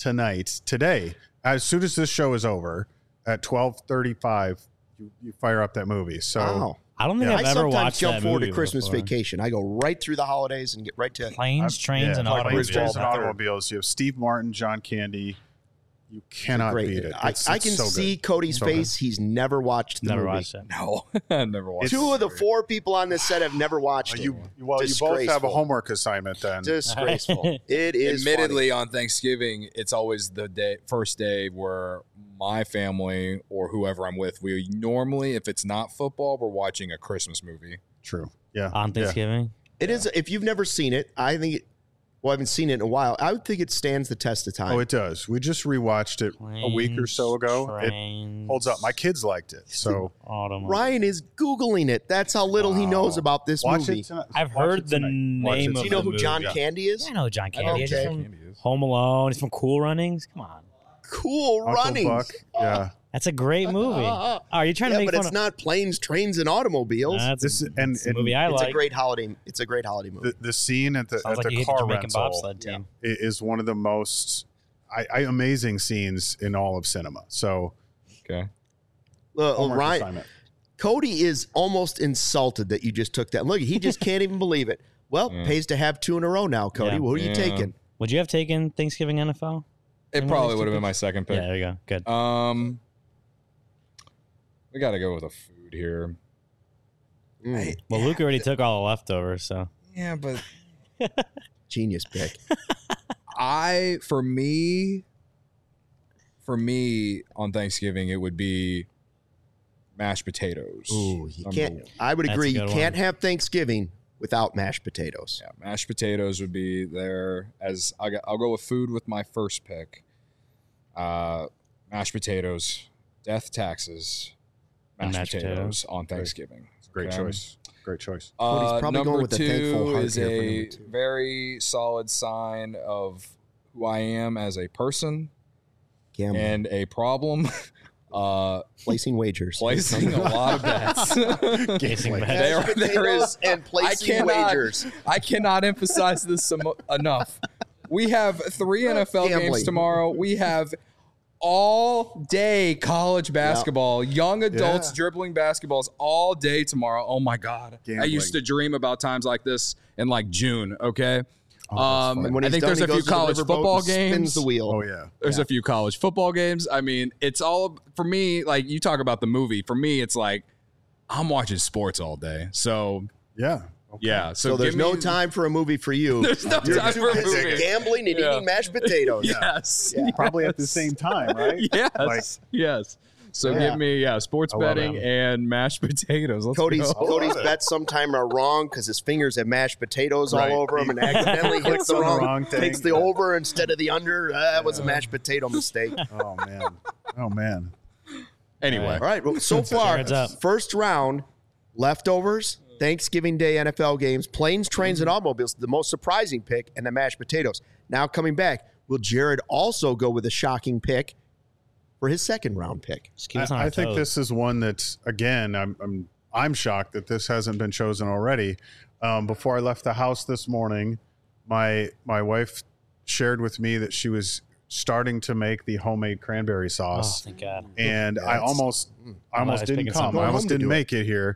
today. As soon as this show is over at 12:35, you fire up that movie. So Wow. I don't think Yeah. I've I ever sometimes watched jump that forward to movie Christmas before. vacation. I go right through the holidays and get right to Planes, trains, and Planes, automobiles. trains, and Baseball. automobiles. You have Steve Martin, John Candy. You cannot great. beat it. I can so see good. Cody's So good. face. He's never watched the Never movie. watched it. No, I never watched. It's- Two of the 4 people on this set have never watched it. You both have a Disgraceful. homework assignment then. Disgraceful. It is Admittedly, on Thanksgiving, it's always the first day where my family or whoever I'm with, we normally, if it's not football, we're watching a Christmas movie. True. Yeah. On Thanksgiving. It is. If you've never seen it, I think it. Well, I haven't seen it in a while. I would think it stands the test of time. Oh, it does. We just rewatched it a week or so ago. It Trains, holds up. My kids liked it. So automobiles. Ryan is Googling it. That's how little he knows about this watch movie. it tonight. I've Watch heard it the tonight. Watch it name Do of you know the who movie. John Candy is? Yeah, I know John Candy. He's Okay. from Home Alone. He's from Cool Runnings. Come on. Cool Uncle Runnings. Buck. Yeah. That's a great movie. Oh, are you trying to Yeah, make but fun it's of? not planes, trains, and automobiles. That's This a, is- and- it's a and movie I it's like. a great holiday. It's a great holiday movie. The scene at the Sounds like the you hate the car Jamaican rental bobsled team. is one of the most amazing scenes in all of cinema. So Okay. homework Ryan, assignment. Cody is almost insulted that you just took that. Look, he just can't even believe it. Well, pays to have 2 in a row now, Cody. Yeah. Who are you Yeah. taking? Would you have taken Thanksgiving NFL? It Anyone probably else would have take been my second pick. Yeah, there you go. Good. We got to go with a food here. Well, Luke already took all the leftovers, so Yeah, but Genius pick. for me on Thanksgiving, it would be mashed potatoes. Ooh, you Number can't. one. I would That's agree. a You good can't one. have Thanksgiving without mashed potatoes. Yeah, mashed potatoes would be there. As I'll go with food with my first pick. Mashed potatoes, death taxes, And mashed mashed potatoes on Thanksgiving. Great Okay. choice. Great choice. Cody's probably number going with the thankful 2 heart is here for a number 2. very solid sign of who I am as a person Gambling. and a problem. Placing wagers. Placing a lot of bets. Placing bets. There is and placing wagers. I cannot emphasize this enough. We have 3 NFL games Gambling. tomorrow. We have all day college basketball, young adults dribbling basketballs all day tomorrow. Oh my God. I Gambling. used to dream about times like this in like June. Okay. And when I he's think done, there's he a few goes to the college riverboat football and spins games. the wheel. Oh yeah. There's a few college football games. I mean, it's all for me. Like you talk about the movie. For me, it's like I'm watching sports all day. So Yeah. Okay. yeah. So there's no time for a movie for you. There's no You're time too for a busy movie. gambling and Yeah. eating mashed potatoes. Yes. Probably at the same time, right? Yes. Like- yes. So Yeah. give me sports I love betting it. and mashed potatoes. Let's Cody's go. Cody's bets sometime are wrong because his fingers have mashed potatoes Right. all over him and accidentally hits Clicks the on the wrong, wrong thing. takes the over instead of the under. That was a mashed potato mistake. Oh man. Oh man. Anyway, All right, well, so far, Heads up. first round, leftovers, Thanksgiving Day NFL games, planes, trains, and automobiles, the most surprising pick, and the mashed potatoes. Now coming back, will Jared also go with a shocking pick for his second round pick? Just keep us on our I think toes. this is one that's again. I'm shocked that this hasn't been chosen already. Before I left the house this morning, my wife shared with me that she was starting to make the homemade cranberry Oh, sauce, thank God. and Yeah, I it's- almost was didn't picking come. something. I Go almost home to didn't do it. make it here.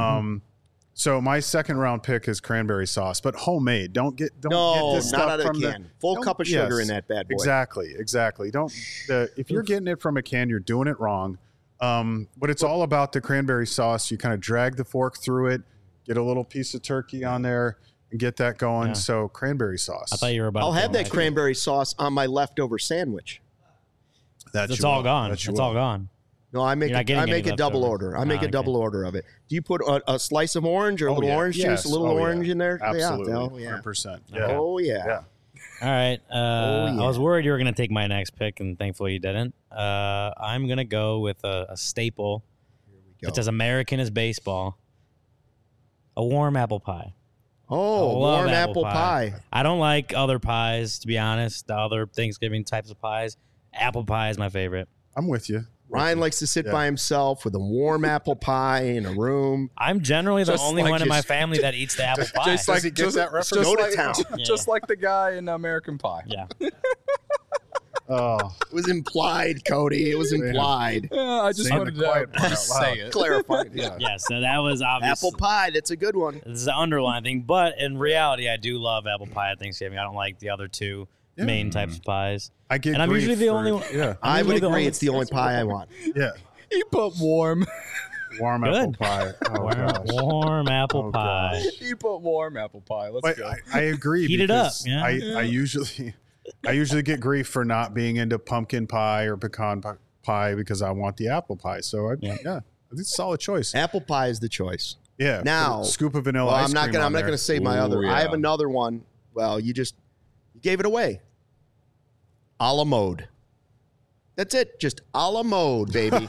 So my second round pick is cranberry sauce, but homemade. Don't get No, this not stuff out of from the can. Full don't- cup of sugar yes, in that bad boy. Exactly. If you're getting it from a can, you're doing it wrong. But it's all about the cranberry sauce. You kind of drag the fork through it, get a little piece of turkey on there, and get that going. Yeah. So cranberry sauce. I thought you were about I'll to have say that cranberry sauce on my leftover sandwich. That It's you all will. gone. That It's you will. all gone. No, I make You're not getting any a double leftovers. order. I make a okay. double order of it. Do you put a slice of orange or a Oh, little yeah. orange Yes. juice, a little Oh, yeah. orange in there? Absolutely. Yeah. Oh, yeah. 100%. Oh, yeah. Yeah. All right. yeah. I was worried you were going to take my next pick, and thankfully you didn't. I'm going to go with a staple. Go. It's as American as baseball. A warm apple pie. Oh, I love warm apple pie. I don't like other pies, to be honest, the other Thanksgiving types of pies. Apple pie is my favorite. I'm with you. Ryan likes to sit Yeah. by himself with a warm apple pie in a room. I'm generally the Just only like one in my his- family that eats the apple pie. just like Does he get just, that reference? just Go to like, town. just like the guy in American Pie. yeah. Oh, It was implied, Cody. It was implied. Yeah, I just Saying wanted the quiet part to out say loud. it. Clarified. Yeah. Yeah, so that was obvious. Apple pie. That's a good one. This is the underlying thing. But in reality, I do love apple pie at Thanksgiving. I don't like the other two main types of pies. I get. And I'm grief usually the for- only one. Yeah. I usually would the agree. only- It's the only pie I want. Yeah. He put warm. Warm apple Good. pie. Oh, Warm, gosh. warm apple Oh, pie. He put warm apple pie. Let's But go. I agree. Heat it up, because yeah. I usually get grief for not being into pumpkin pie or pecan pie because I want the apple pie. So Yeah. it's a solid choice. Apple pie is the choice. Yeah. Now- put a scoop of vanilla Well, ice I'm not cream gonna. on I'm not there. gonna say my Ooh, other. yeah. I have another one. Well, you gave it away. A la mode. That's it. Just a la mode, baby.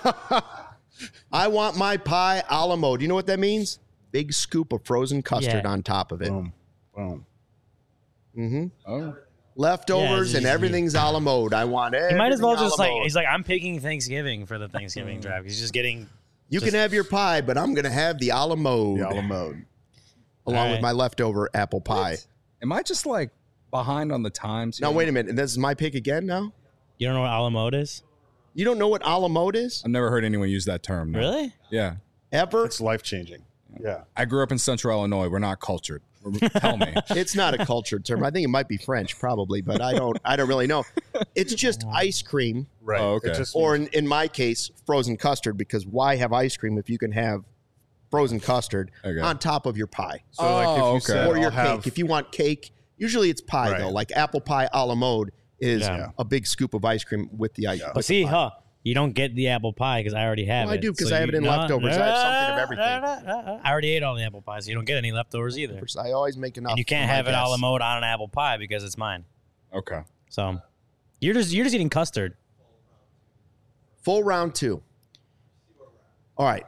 I want my pie a la mode. You know what that means? Big scoop of frozen custard Yeah. on top of it. Boom. Boom. Mm-hmm. Oh. Leftovers Yeah, and everything's a la mode. I want it. He might as well just he's like, I'm picking Thanksgiving for the Thanksgiving draft. He's just getting. You can have your pie, but I'm gonna have the a la mode. The a la mode. Along All with right. my leftover apple pie. Am I just like behind on the times? Now here? wait a minute. This is my pick again. Now You don't know what a la mode is? you don't know what a la mode is I've never heard anyone use that term. No. Really? Yeah. ever. It's life changing. Yeah. I grew up in Central Illinois. We're not cultured. Tell me. It's not a cultured term. I think it might be French, probably, but I don't really know. It's just ice cream, Right. Oh, okay. It just or in my case, frozen custard. Because why have ice cream if you can have frozen custard Okay. on top of your pie so like if you okay. said, or your I'll have- cake? If you want cake, usually it's pie Right. though. Like apple pie a la mode is Yeah. a big scoop of ice cream with the ice. But see, you don't get the apple pie because I already have Well, I it. do, 'cause So I have it in you- leftovers. I have something of everything. I already ate all the apple pies, so you don't get any leftovers either. I always make enough. And you can't for my have it a la guests. mode on an apple pie because it's mine. Okay. So you're just eating custard. Full round 2. All right.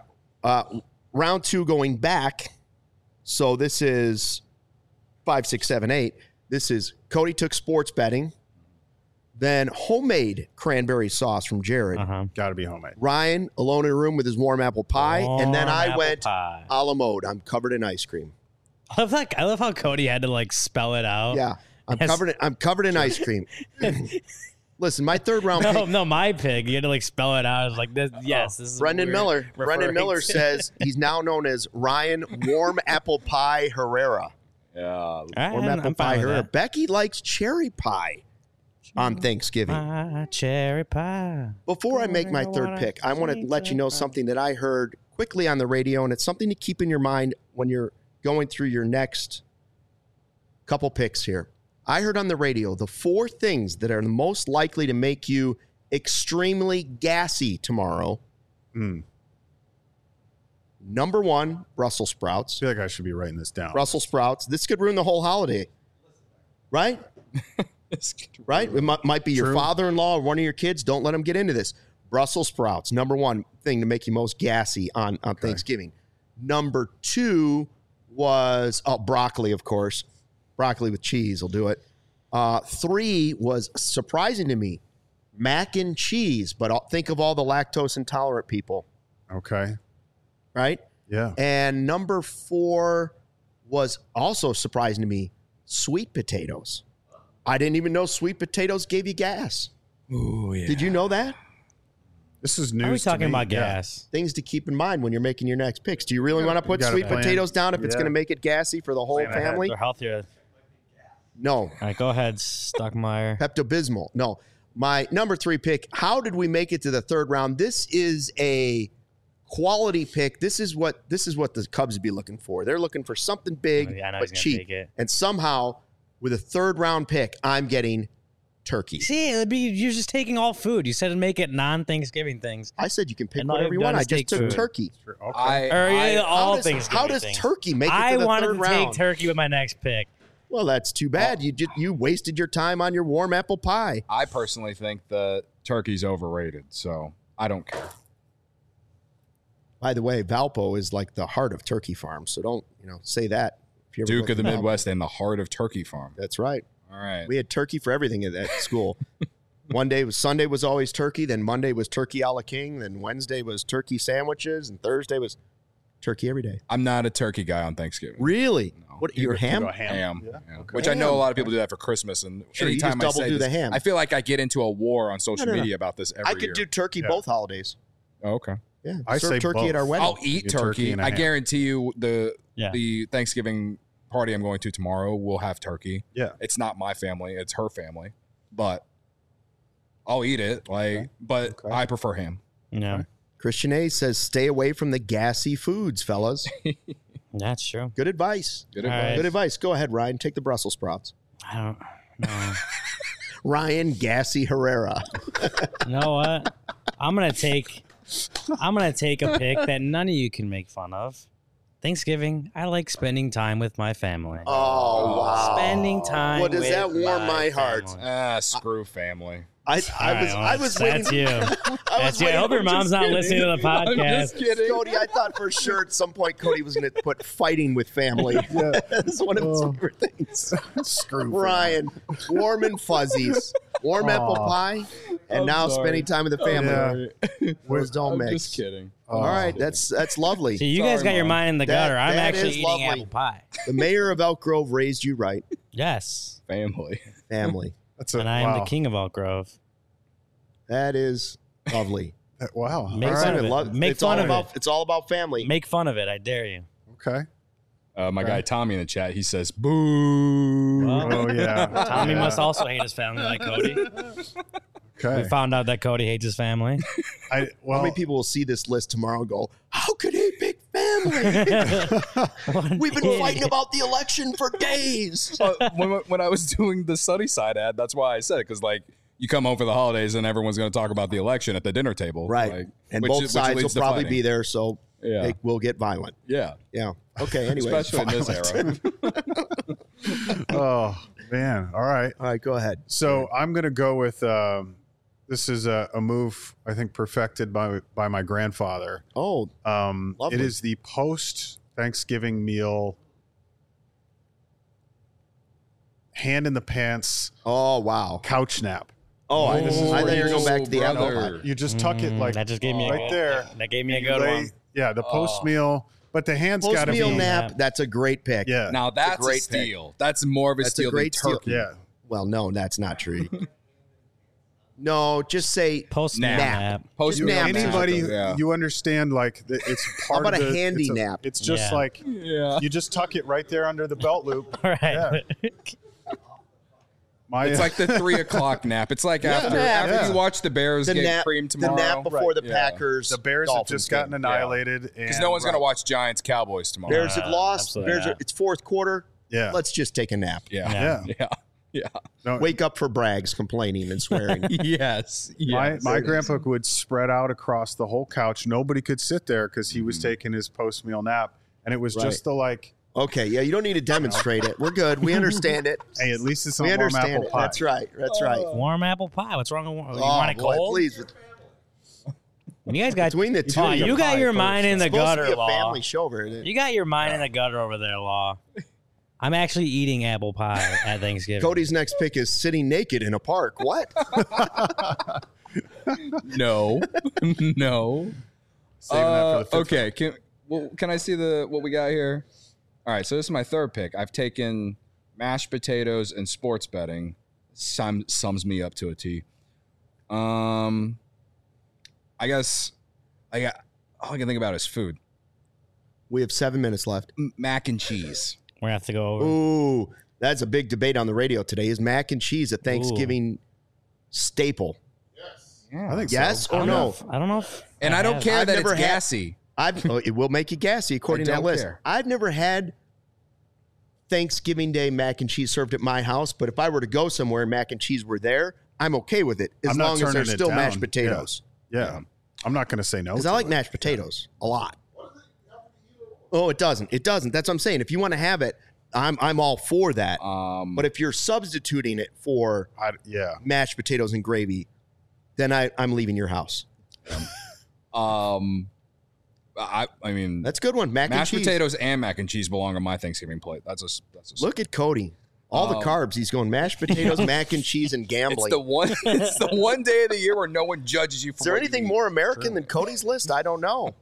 Round 2 going back. So this is 5, 6, 7, 8. This is Cody took sports betting. Then homemade cranberry sauce from Jared. Got to be homemade. Ryan alone in a room with his warm apple pie. And then I Warm went apple pie. a la mode. I'm covered in ice cream. I love how Cody had to like spell it out. Yeah. I'm Yes. covered in ice cream. Listen, my third round pick. No, my pig. You had to like spell it out. I was like, this. Yes, this is Brendan what we're Miller. Brendan referring Miller to. says he's now known as Ryan Warm Apple Pie Herrera. Yeah. All right, Warm Apple I'm Pie fine with Herrera. that. Becky likes cherry pie on Thanksgiving. Pie, cherry pie. Before I make my third pick, I want to let you know something that I heard quickly on the radio, and it's something to keep in your mind when you're going through your next couple picks here. I heard on the radio the 4 things that are the most likely to make you extremely gassy tomorrow. Number 1, Brussels sprouts. I feel like I should be writing this down. Brussels sprouts. This could ruin the whole holiday, right? Right? It might be your True. father-in-law or one of your kids. Don't let them get into this. Brussels sprouts, number 1 thing to make you most gassy on Thanksgiving. Number 2 was broccoli, of course. Broccoli with cheese will do it. 3 was surprising to me, mac and cheese. But think of all the lactose intolerant people, Okay. right? Yeah. And number 4 was also surprising to me, sweet potatoes. I didn't even know sweet potatoes gave you gas. Ooh, yeah. Did you know that? This is news. Are we to talking me. about Yeah. gas? Things to keep in mind when you're making your next picks. Do you really want to put gotta sweet plan. potatoes down if it's Yeah. going to make it gassy for the whole Plan ahead. family? They're healthier. No. All right, go ahead, Stockmeyer. Pepto-Bismol. No. My number 3 pick, how did we make it to the third round? This is a quality pick. This is what the Cubs would be looking for. They're looking for something big I know but he's gonna cheap. take it. And somehow, with a third round pick, I'm getting turkey. See, you're just taking all food. You said to make it non-Thanksgiving things. I said you can pick And all whatever you you've want. done I is just take took food. turkey. Okay. All how Thanksgiving does things. turkey make it I to the wanted third to round? take turkey with my next pick. Well, that's too bad. You wasted your time on your warm apple pie. I personally think that turkey's overrated, so I don't care. By the way, Valpo is like the heart of turkey farms, so don't say that. If you ever Duke go of the to Valpo. Midwest and the heart of turkey farm. That's right. All right. We had turkey for everything at school. Sunday was always turkey. Then Monday was turkey a la king. Then Wednesday was turkey sandwiches, and Thursday was turkey every day. I'm not a turkey guy on Thanksgiving. Really? No. What? You're ham? Go ham. Ham. Yeah. Yeah. Okay. Which I know a Ham. lot of people do that for Christmas. And Sure, you anytime just I double say do the this, ham. I feel like I get into a war on social No. media about this every I could year. do turkey Yeah. both holidays. Oh, okay. Yeah, I serve say turkey at our both. wedding. I'll eat Get turkey turkey. and a I ham. guarantee you Yeah. the Thanksgiving party I'm going to tomorrow will have turkey. Yeah. It's not my family, it's her family. But I'll eat it. But Okay. I prefer ham. Yeah, Christian A says, "Stay away from the gassy foods, fellas." that's true. Good advice. Good All advice. right. Good advice. Go ahead, Ryan. Take the Brussels sprouts. I don't know. Ryan Gassy Herrera. You know what? I'm gonna take a pick that none of you can make fun of. Thanksgiving, I like spending time with my family. Oh wow! Spending time. Well, does with that warm my heart? family. Screw family. I All was right, waiting. that's you. I was That's you. I waiting- hope your mom's not listening to the I'm just podcast. kidding. Cody, I thought for sure at some point Cody was going to put fighting with family. That's one of his favorite things. Screw Ryan, warm and fuzzies, warm apple pie, and I'm now sorry. spending time with the family. Yeah. Those don't I'm mix. just kidding. All right, that's lovely. See, you guys Sorry, got your Mom. mind in the That- gutter. I'm that actually is eating lovely. apple pie. The mayor of Elk Grove raised you right, Yes, Family. family. That's and I am the wow. king of Elk Grove. That is lovely. Wow. Make All fun right. of it. Make it's fun all of about, it. It's all about family. Make fun of it. I dare you. Okay. My guy Tommy in the chat, he says, boo. Well, Oh yeah. Tommy Yeah. must also hate his family like Cody. Okay. We found out that Cody hates his family. How How many people will see this list tomorrow and go, "How could he pick family? We've been fighting about the election for days." When I was doing the Sunnyside ad, that's why I said it, because you come home for the holidays and everyone's going to talk about the election at the dinner table, Right. And which both which sides will leads to probably fighting. be there, so Yeah. they will get violent. Yeah, Yeah. Okay. Anyway. especially in this era. Oh man. All right. All right. Go ahead. So I'm gonna go with This is a move I think perfected by my grandfather. Oh, It is the post Thanksgiving meal, hand in the pants. Oh, wow. Couch nap. Oh, I thought you were going back to the brother. apple pie. You just tuck it like that just gave me right there. That gave me a good Lay- one. Yeah, the post meal, but the hands got to be. Post-meal nap, that's a great pick. Yeah. Now that's a great steal. That's more of a That's a steal than great steal. turkey. Yeah. Well, no, that's not true. No, just say Post Nap. nap. Post Just nap. Anybody, Yeah. you understand, like, it's part about of a the, handy it's nap? It's just Yeah. like, Yeah. you just tuck it right there under the belt loop. All right. It's like the 3 o'clock nap. It's like after Yeah. you watch the Bears the get nap, cream the tomorrow. nap before the Yeah. Packers. the Bears have Dolphins just gotten game. annihilated. Because no one's going to watch Giants Cowboys tomorrow. Bears have lost. absolutely Bears not. it's fourth quarter. Yeah. Let's just take a nap. Yeah. Yeah. Yeah. Yeah. No, Wake up for Braggs complaining and swearing. Yes. my grandpa would spread out across the whole couch. Nobody could sit there because he was taking his post meal nap, and it was Right. just the like, Okay, yeah, you don't need to demonstrate it. We're good. We understand it. hey, at least it's not We warm understand apple it. pie. That's right. That's right. Warm apple pie. What's wrong with warm? You Oh, want it boy, cold? please. You guys got Between the two, Oh, you got your first. mind in the it's supposed to gutter, be a Law. family show over here. You got your mind in the gutter over there, Law. I'm actually eating apple pie at Thanksgiving. Cody's next pick is sitting naked in a park. What? No. No. Saving that for the fifth Okay. Can I see what we got here? All right. So this is my third pick. I've taken mashed potatoes and sports betting. Sums me up to a T. I guess all I can think about is food. We have 7 minutes left. Mac and cheese. We're gonna have to go over. Ooh, that's a big debate on the radio today. Is mac and cheese a Thanksgiving staple? I think Yes so. or no? I don't know if. And I don't have. care I've that never it's had- gassy. It will make you gassy according to I that don't list. care. I've never had Thanksgiving Day mac and cheese served at my house, but if I were to go somewhere and mac and cheese were there, I'm okay with it as I'm not long as turning there's it still down. mashed potatoes. Yeah. I'm not going to say no. Because to I like it. mashed potatoes a lot. Oh, it doesn't. It doesn't. That's what I'm saying. If you want to have it, I'm all for that. But if you're substituting it for Yeah. mashed potatoes and gravy, then I'm leaving your house. I mean, That's a good one. Mac mashed and cheese. potatoes and mac and cheese belong on my Thanksgiving plate. That's a Look at Cody. All the carbs. He's going mashed potatoes, mac and cheese, and It's gambling. it's the one day of the year where no one judges you for Is there what you anything eat. more American than Cody's list? I don't know.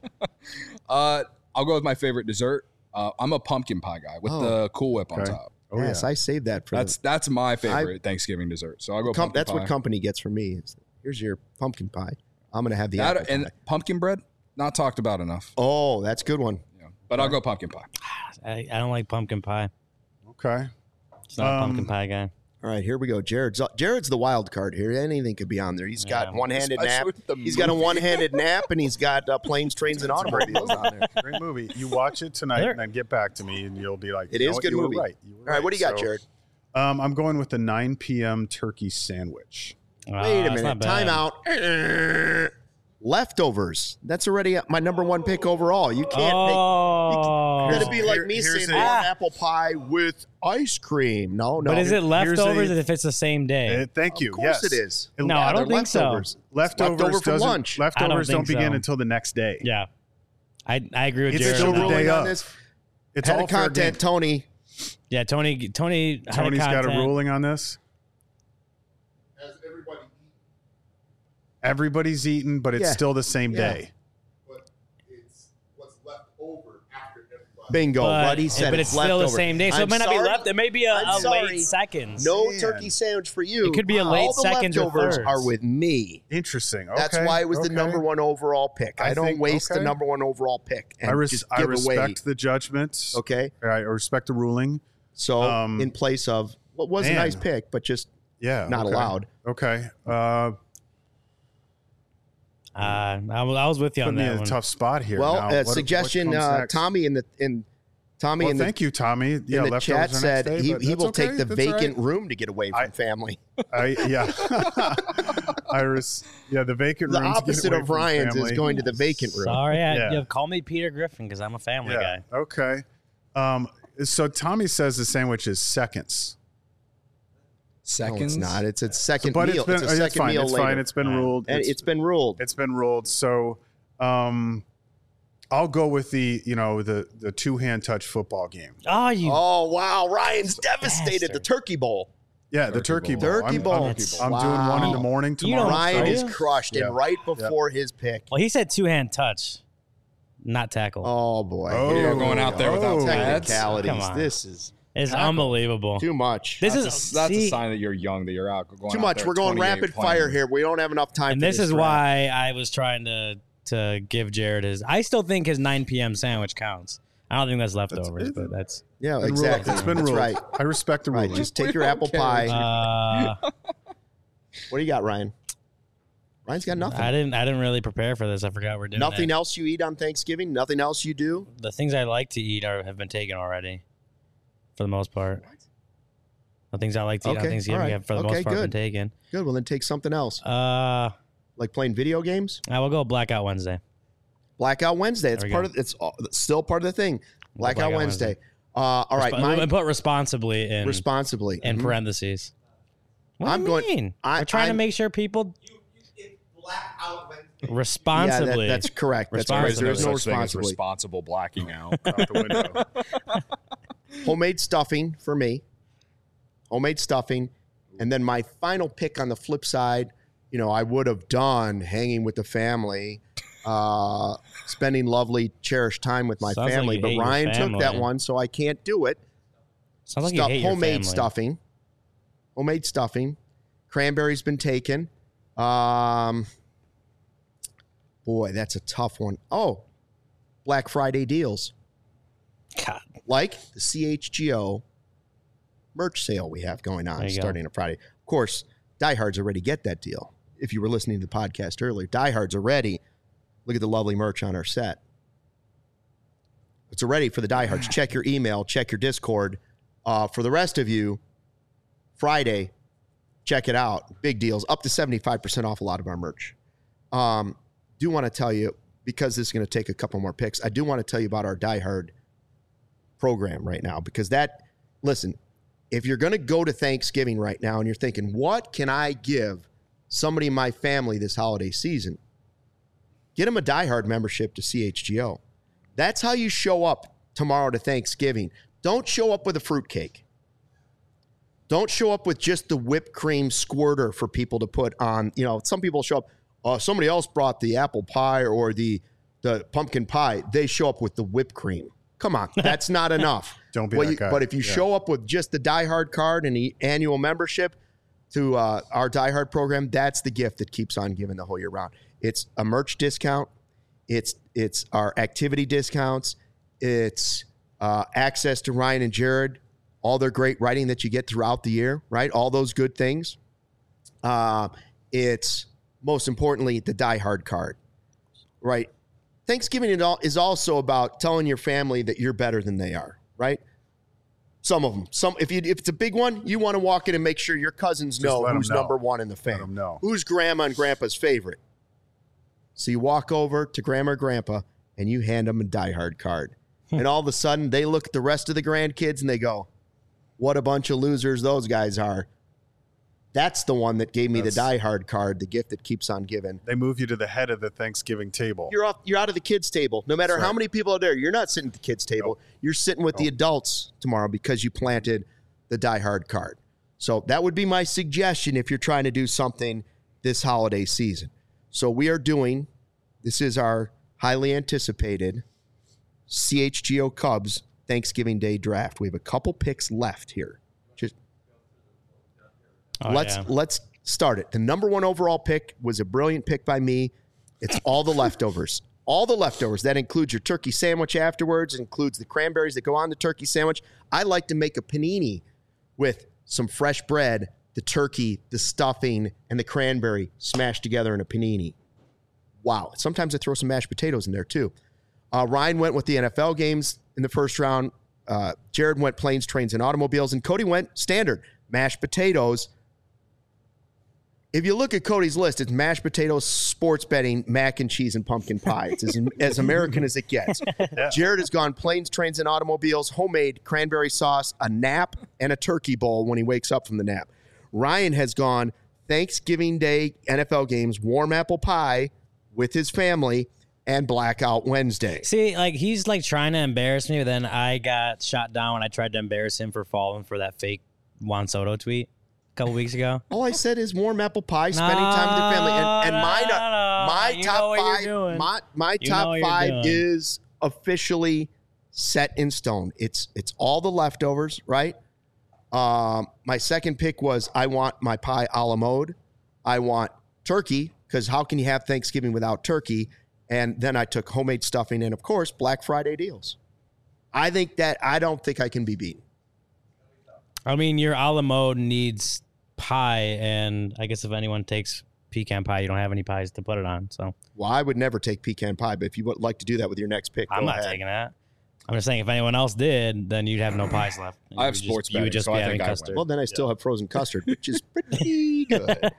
I'll go with my favorite dessert. I'm a pumpkin pie guy with the Cool Whip on Okay. top. Oh, yes, yeah. I saved that for That's my favorite Thanksgiving dessert. So I'll go pumpkin that's pie. what company gets for me. Here's your pumpkin pie. I'm going to have the That, apple and pie. pumpkin bread, not talked about enough. Oh, that's a good one. Yeah. But I'll go pumpkin pie. I don't like pumpkin pie. Okay. It's not a pumpkin pie guy. All right, here we go. Jared's the wild card here. Anything could be on there. He's got Yeah. one-handed nap. Especially with the He's got a movie. one-handed nap, and he's got planes, trains, and automobiles on there. Great movie. You watch it tonight and then get back to me, and you'll be like, It you is know a what? good You were movie. right. You were All right, what do you got, So, Jared? I'm going with the 9 p.m. turkey sandwich. Wait a It's not minute. Time bad. out. Leftovers. That's already my number one pick overall. You can't Oh, make. That'd be like me Here's saying a- warm apple pie with ice cream. No. but is it Here's leftovers a- if it's the same day? Thank you. Of course yes. it is. No, I don't they're think so. leftovers. Leftovers Leftover from doesn't- lunch. Leftovers I don't don't think begin so. until the next day. Yeah, I agree with It's Jared. still on the that. day ruling on of. this? It's Head all of fair content, game. Tony. Yeah, Tony had Tony's got a content. ruling on this. Everybody's eaten, but it's Yeah. still the same Yeah. day. Bingo. But, What he said. but it's still leftover. the same day, so I'm it might not sorry. be left. It may be a I'm sorry. late seconds. No Man. turkey sandwich for you. It could be a late All the seconds or leftovers thirds. are with me. Interesting. Okay. That's why it was the okay. number one overall pick. I, I don't think- waste the okay. number one overall pick and just I give respect away. the judgment. Okay, I respect the ruling. so in place of what was a man. nice pick, but just Yeah. not okay. allowed. Okay. I was with you Put on me that in a one. tough spot here. Well, now. What suggestion. comes next? Tommy in the Well, thank you, Tommy. Yeah, in the leftovers chat are next said day, he but he that's will okay. take the That's vacant all right. room to get away from family. Yeah. The vacant The room. to get opposite away of from Ryan's is family. going to the vacant room. Sorry, Yeah. call me Peter Griffin because I'm a family guy. Okay. So Tommy says the sandwich is seconds. seconds. No, it's not. It's a second But meal. It's a it's second fine. meal It's later. fine. It's been ruled. And it's been ruled. It's been ruled. So I'll go with the two-hand touch football game. Oh, you. Oh, wow. Ryan's devastated. bastard. The turkey bowl. Yeah, the turkey bowl. Turkey bowl. I'm doing one in the morning You tomorrow. don't- Ryan Are is you? crushed. Yeah. And right before his pick. Well, he said two-hand touch, not tackle. Oh, boy. Oh. Here You're we going out there go. without pads? Technicalities. Come on. This is It's unbelievable. too much. This That's is a see, sign that you're young, that you're out. Going Too out much. there We're going 28 rapid playing. fire here. We don't have enough time and for this is draft. why I was trying to give Jared his. I still think his 9 p.m. sandwich counts. I don't think that's leftovers, but that's. Yeah, Been ruled. exactly. It's been That's ruled. right. I respect the Right. ruling. Just take your apple pie. What do you got, Ryan? Ryan's got nothing. I didn't really prepare for this. I forgot we're doing Nothing it. else you eat on Thanksgiving? Nothing else you do? The things I like to eat have been taken already, for the most part. The things I like to eat on Okay, Thanksgiving all right. have, for the Okay, most part, been good. taken. Good. Well, then take something else. Like playing video games? I will go Blackout Wednesday. Blackout Wednesday. It's There we part go. of. It's still part of the thing. Blackout Blackout Wednesday. All right. Mine, and put responsibly in responsibly. in Mhm. parentheses. What I'm do you going- mean? I- We're trying to I'm- make sure people Blackout Wednesday. Yeah, responsibly. that's correct. That's Responsibly. correct. There is no such thing as responsibly. responsible blacking out. Out the window. Homemade stuffing for me. Homemade stuffing. And then my final pick on the flip side, I would have done hanging with the family, spending lovely, cherished time with my Sounds like family. you But hate your Ryan took that family. one, so I can't do it. Sounds like you hate your Homemade family. stuffing. Homemade stuffing. Cranberry's been taken. Boy, that's a tough one. Oh, Black Friday deals. God. Like the CHGO merch sale we have going on There you go. starting on Friday. Of course, diehards already get that deal. If you were listening to the podcast earlier, diehards already. Look at the lovely merch on our set. It's already for the diehards. Check your email, check your Discord. For the rest of you, Friday, check it out. Big deals, up to 75% off a lot of our merch. Do want to tell you, because this is going to take a couple more picks, I do want to tell you about our diehard program right now, because listen, if you're going to go to Thanksgiving right now and you're thinking, what can I give somebody in my family this holiday season? Get them a diehard membership to CHGO. That's how you show up tomorrow to Thanksgiving. Don't show up with a fruitcake. Don't show up with just the whipped cream squirter for people to put on. Some people show up, somebody else brought the apple pie or the pumpkin pie. They show up with the whipped cream. Come on, that's not enough. Don't be that guy. But if you show up with just the diehard card and the annual membership to our diehard program, that's the gift that keeps on giving the whole year round. It's a merch discount. It's our activity discounts. It's access to Ryan and Jared, all their great writing that you get throughout the year, right? All those good things. It's most importantly the diehard card, right? Thanksgiving is also about telling your family that you're better than they are, right? Some of them. If it's a big one, you want to walk in and make sure your cousins know let 'em who's know. number one in the Let 'em family. know. Who's grandma and grandpa's favorite. So you walk over to grandma or grandpa and you hand them a diehard card. And all of a sudden they look at the rest of the grandkids and they go, what a bunch of losers those guys are. That's the one that gave me the diehard card, the gift that keeps on giving. They move you to the head of the Thanksgiving table. You're out of the kids' table. No matter That's how right. many people are there, you're not sitting at the kids' table. You're sitting with the adults tomorrow because you planted the diehard card. So that would be my suggestion if you're trying to do something this holiday season. So we are doing, this is our highly anticipated CHGO Cubs Thanksgiving Day draft. We have a couple picks left here. Let's start it. The number one overall pick was a brilliant pick by me. It's all the leftovers. All the leftovers. That includes your turkey sandwich afterwards. It includes the cranberries that go on the turkey sandwich. I like to make a panini with some fresh bread, the turkey, the stuffing, and the cranberry smashed together in a panini. Wow. Sometimes I throw some mashed potatoes in there too. Ryan went with the NFL games in the first round. Jared went planes, trains, and automobiles. And Cody went standard, mashed potatoes. If you look at Cody's list, it's mashed potatoes, sports betting, mac and cheese, and pumpkin pie. It's as American as it gets. Yeah. Jared has gone planes, trains, and automobiles, homemade cranberry sauce, a nap, and a turkey bowl when he wakes up from the nap. Ryan has gone Thanksgiving Day NFL games, warm apple pie with his family, and Blackout Wednesday. See, like he's like trying to embarrass me, but then I got shot down when I tried to embarrass him for falling for that fake Juan Soto tweet a couple weeks ago. All I said is warm apple pie, spending time with your family, and my top five. My top five is officially set in stone. It's all the leftovers, right? My second pick was I want my pie a la mode. I want turkey, because how can you have Thanksgiving without turkey? And then I took homemade stuffing and, of course, Black Friday deals. I don't think I can be beaten. I mean, your a la mode needs pie, and I guess if anyone takes pecan pie, you don't have any pies to put it on. So, well, I would never take pecan pie, but if you would like to do that with your next pick, I'm not taking that. I'm just saying, if anyone else did, then you'd have no pies left. I have sports betting, you would just so be I having think I custard. Well, then I still have frozen custard, which is pretty good.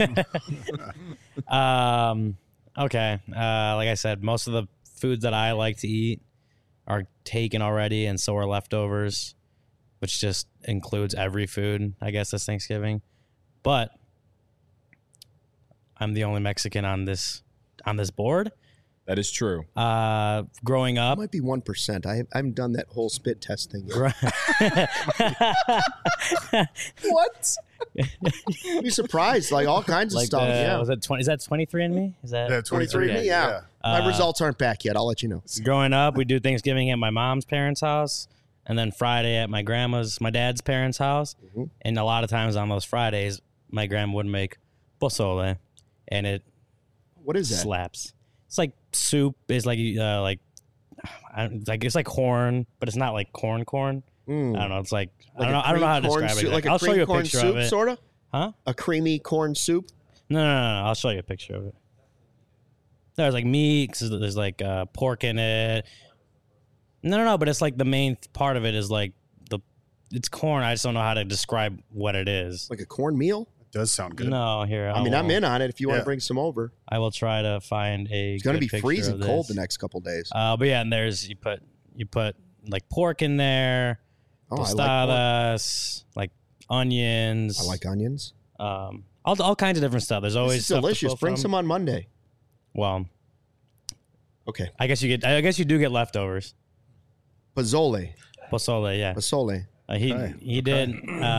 Okay. Like I said, most of the foods that I like to eat are taken already, and so are leftovers, which just includes every food, I guess, this Thanksgiving. But I'm the only Mexican on this board. That is true. Growing That up, might be 1%. I haven't done that whole spit test thing yet. What? You'd be surprised, like all kinds of like stuff. Yeah, was that 20? Is that 23andMe? Is that Yeah, 23 Okay. Yeah. My results aren't back yet. I'll let you know. Growing up, we do Thanksgiving at my mom's parents' house, and then Friday at my dad's parents' house. Mm-hmm. And a lot of times on those Fridays, my grandma would make pozole, and it What is that? slaps. It's like soup. It's like it's like corn, but it's not like corn. Mm. I don't know. It's like Like I a don't know how to cream corn describe soup, it. like a I'll show cream you a corn picture soup, of it. sort of. Huh? A creamy corn soup. No. I'll show you a picture of it. There's like meat. 'Cause there's like pork in it. No. But it's like the main part of it is like it's corn. I just don't know how to describe what it is. Like a cornmeal. It does sound good. No, here. I mean, I'm in on it. If you want Yeah. to bring some over, I will try to find a. it's going to good be picture freezing of cold this. the next couple days. But yeah, and there's you put like pork in there, Oh, I like pork. tostadas, like onions. I like onions. All kinds of different stuff. There's always This is stuff to delicious. pull Bring from. some on Monday. Well, Okay. I guess you do get leftovers. Pozole. Pozole, yeah. Pozole. He did.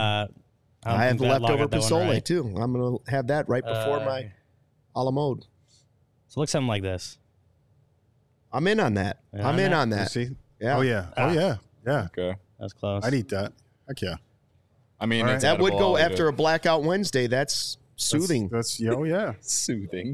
I have think that log leftover got that one pozole right. too. I'm going to have that right before my a la mode. So look something like this. I'm in on that. Yeah, I'm in that- on You that. see? Yeah. Oh yeah. Ah. Oh yeah. Yeah. Okay. That's close. I'd eat that. Heck yeah. I mean, All right. it's That would edible, go I'll eat after it. a Blackout Wednesday. That's soothing. Oh yeah. Soothing.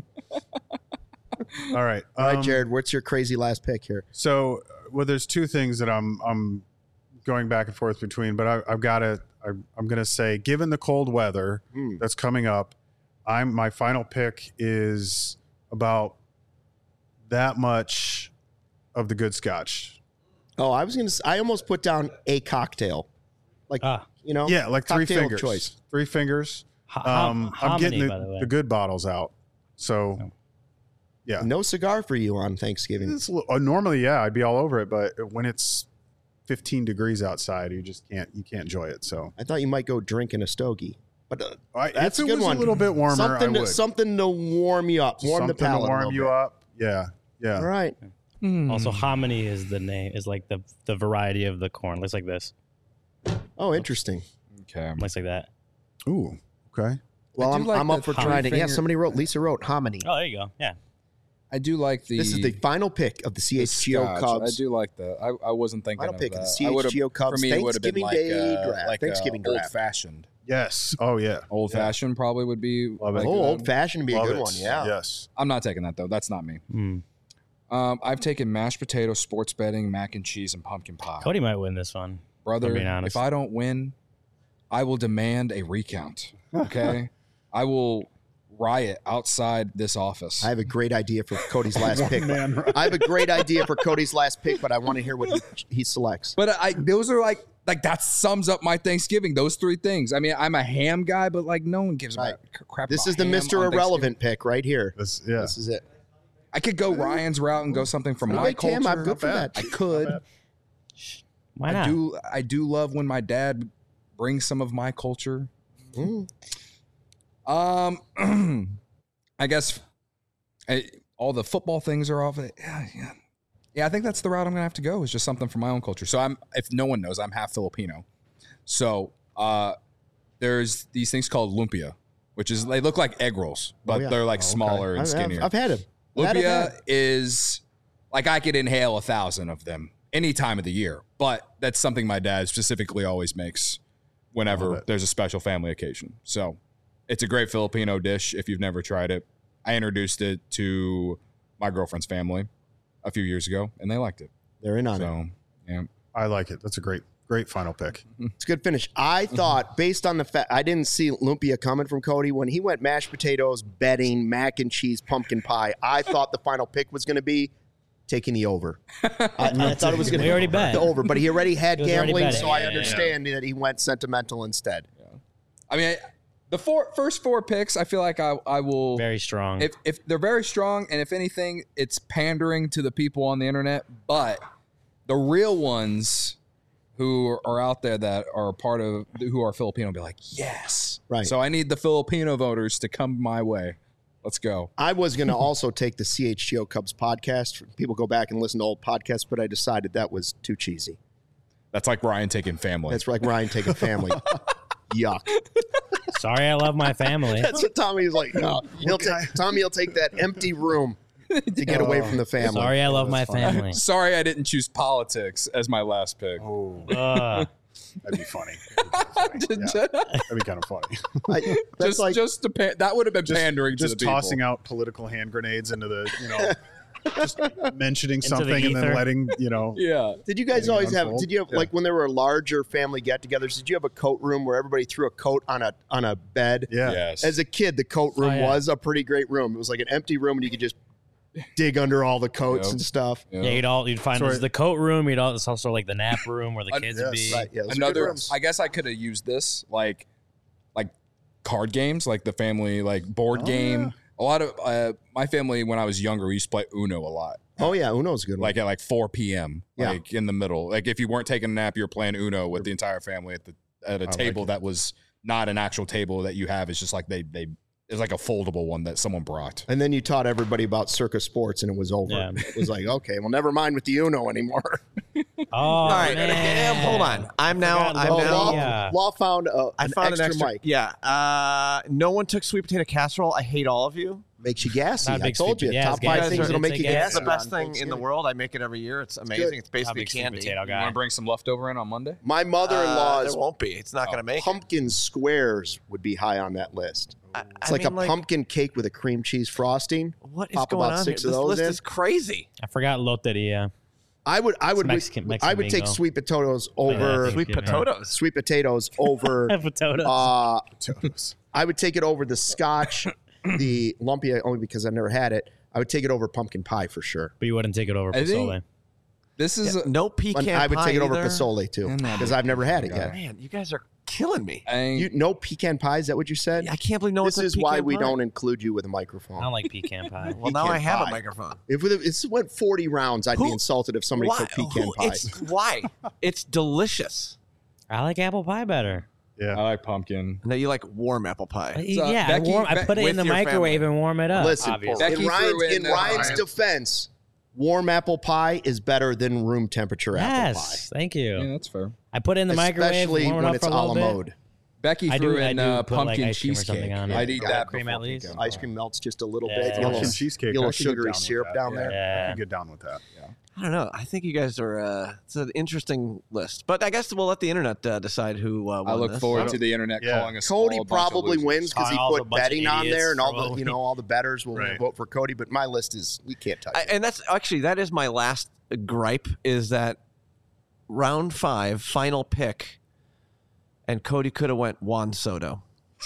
All right. All right, Jared, what's your crazy last pick here? So, well, there's two things that I'm going back and forth between, but I'm gonna say, given the cold weather that's coming up, my final pick is about that much of the good Scotch. Oh, I almost put down a cocktail. Like, Yeah, like three cocktail of fingers. choice. 3 fingers. How I'm getting many, by the way? the good bottles out. So, yeah. No cigar for you on Thanksgiving. It's, normally, yeah, I'd be all over it, but when it's 15 degrees outside, you can't enjoy it. So I thought you might go drinking a stogie. But if that's a it good was one. a little bit warmer, something, I would. something to warm you up, warm the Something palate. to a warm little you bit. up. Yeah. All right. Also, hominy is the name. Is like the variety of the corn. Looks like this. Oh, interesting. Okay. Looks like that. Ooh. Okay. Well, I do like I'm up the for trying it. Yeah, finger- Lisa wrote hominy. Oh, there you go. Yeah. I do like the. This is the final pick of the the CHGO Scotch. Cubs. I do like that. I wasn't thinking Final of pick of that. the I would've- CHGO Cubs For me, it would have been Thanksgiving like Day draft. like Thanksgiving draft. old fashioned. Yes. Oh yeah. Old fashioned probably would be. Love it. like, Oh, old fashioned would be a Love good it. one. Yeah. Yes. I'm not taking that though. That's not me. Mm. I've taken mashed potato, sports betting, mac and cheese, and pumpkin pie. Cody might win this one. Brother, I'm being honest. if I don't win, I will demand a recount. Okay, I will riot outside this office. I have a great idea for Cody's last pick. I have a great idea for Cody's last pick, but I want to hear what he selects. But those are like that sums up my Thanksgiving. Those three things. I mean, I'm a ham guy, but like no one gives a crap. This about is the ham Mr. on Irrelevant pick right here. This This is it. I could go Ryan's route and go something from my Wait, culture. Tam, I'm good for that. I could. Why not? I do love when my dad brings some of my culture I guess all the football things are off. Yeah, I think that's the route I'm gonna have to go. Is just something from my own culture. So if no one knows, I'm half Filipino. So there's these things called lumpia, which is they look like egg rolls, but they're like smaller and skinnier. I've had them. Lumpia is like I could inhale 1,000 of them any time of the year, but that's something my dad specifically always makes whenever there's a special family occasion. So it's a great Filipino dish if you've never tried it. I introduced it to my girlfriend's family a few years ago, and they liked it. They're in on it. So, yeah. I like it. That's a great final pick. It's a good finish. I thought, based on the fact, I didn't see lumpia coming from Cody. When he went mashed potatoes, bedding, mac and cheese, pumpkin pie, I thought the final pick was going to be taking the over. I thought it was going to be already bet. the over, but he already had gambling, betting. so I understand that he went sentimental instead. I mean, the first four picks, I feel like I will Very strong. If they're very strong, and if anything, it's pandering to the people on the internet. But the real ones who are out there that are part of who are Filipino be like, yes, Right. So I need the Filipino voters to come my way. Let's go. I was going to also take the CHGO Cubs podcast. People go back and listen to old podcasts, but I decided that was too cheesy. That's like Ryan taking family. That's like Ryan taking family. Yuck. Sorry, I love my family. That's what Tommy's like. No, Tommy will take that empty room to get away from the family. Sorry, I love my family. Sorry, I didn't choose politics as my last pick. Oh, Ugh. that'd be funny. That'd be kind of funny. That's like That would have been pandering to the Just people. tossing out political hand grenades into the, just mentioning something and ether. then letting, Yeah. Did you guys always have? unfold. Did you have like when there were larger family get-togethers? Did you have a coat room where everybody threw a coat on a bed? Yeah. Yes. As a kid, the coat room yeah. was a pretty great room. It was like an empty room, and you could just dig under all the coats Yep. and stuff. Yeah, you'd find Sorry. there's the coat room. It's also like the nap room where the kids would be. Right, yeah, those are good Another, rooms. I guess I could have used this like card games, like the family board game. yeah. A lot of my family when I was younger, we used to play Uno a lot. Oh yeah, Uno's a good. One. At 4 p.m. Yeah. In the middle. Like if you weren't taking a nap, you were playing Uno with the entire family at a table that was not an actual table that you have. It's just like it's like a foldable one that someone brought. And then you taught everybody about circus sports, and it was over. Yeah. It was like, okay, well, never mind with the Uno anymore. Oh, All right, man. hold on. I'm now. Law found an extra mic. Yeah. No one took sweet potato casserole. I hate all of you. Makes you gassy. Not a I big told you. sweet- yeah, Top it's five gassy. things that'll make It's you a gassy. It's the best on thing in the Thanksgiving. world. I make it every year. It's amazing. It's basically Big sweet candy. potato You guy. want to bring some leftover in on Monday? My mother-in-law's There won't be. It's not going to make it. pumpkin squares would be high on that list. It's I like mean, a pumpkin cake with a cream cheese frosting. What is Pop going about on 6 here? of This those list in. is crazy. I forgot loteria. I would Mexican take bingo. sweet potatoes over Yeah, Sweet potatoes. sweet potatoes over Potatoes. Potatoes. I would take it over the Scotch, the lumpia only because I've never had it. I would take it over pumpkin pie for sure. But you wouldn't take it over I think- pozole. This is No pecan I would pie take it over either. pozole too And that because I've never had it yet. Man, you guys are killing me. You no pecan pie? Is that what you said? I can't believe no one This took is why pecan we pie. don't include you with a I microphone. don't like pecan pie. Well, now pecan I have pie. a microphone. If it went 40 rounds, I'd be Who- insulted if somebody Why? took pecan pie. Why? It's delicious. I like apple pie better. I Yeah. like pumpkin. No, you like warm apple pie. Yeah, Becky- I put it with in the your microwave and warm it up. Listen, obviously. Becky in threw in, Ryan's defense, warm apple pie is better than room temperature apple pie. Yes, thank you. Yeah, that's fair. I put it in the microwave, Especially warm it when up it's for a a la little bit. mode. Becky I threw do- I in do put, like, pumpkin ice cream or something cheesecake. on it. I'd eat Yeah, that cream before at least. pecan Ice pie. cream melts just a little Yeah. bit. Pumpkin Yellow, cheesecake. yellow I could get sugary down with syrup that. down there. Yeah. I could get down with that. I don't know. I think you guys are. It's an interesting list, but I guess we'll let the internet decide who. Won I look this. forward to the internet Yeah. calling us. Cody all a bunch of probably losers. wins because he Kyle's a put bunch of betting on idiots there, and all for the all the bettors will Right. vote for Cody. But my list is we can't touch it. And that's actually that is my last gripe is that round 5 final pick, and Cody could have went Juan Soto.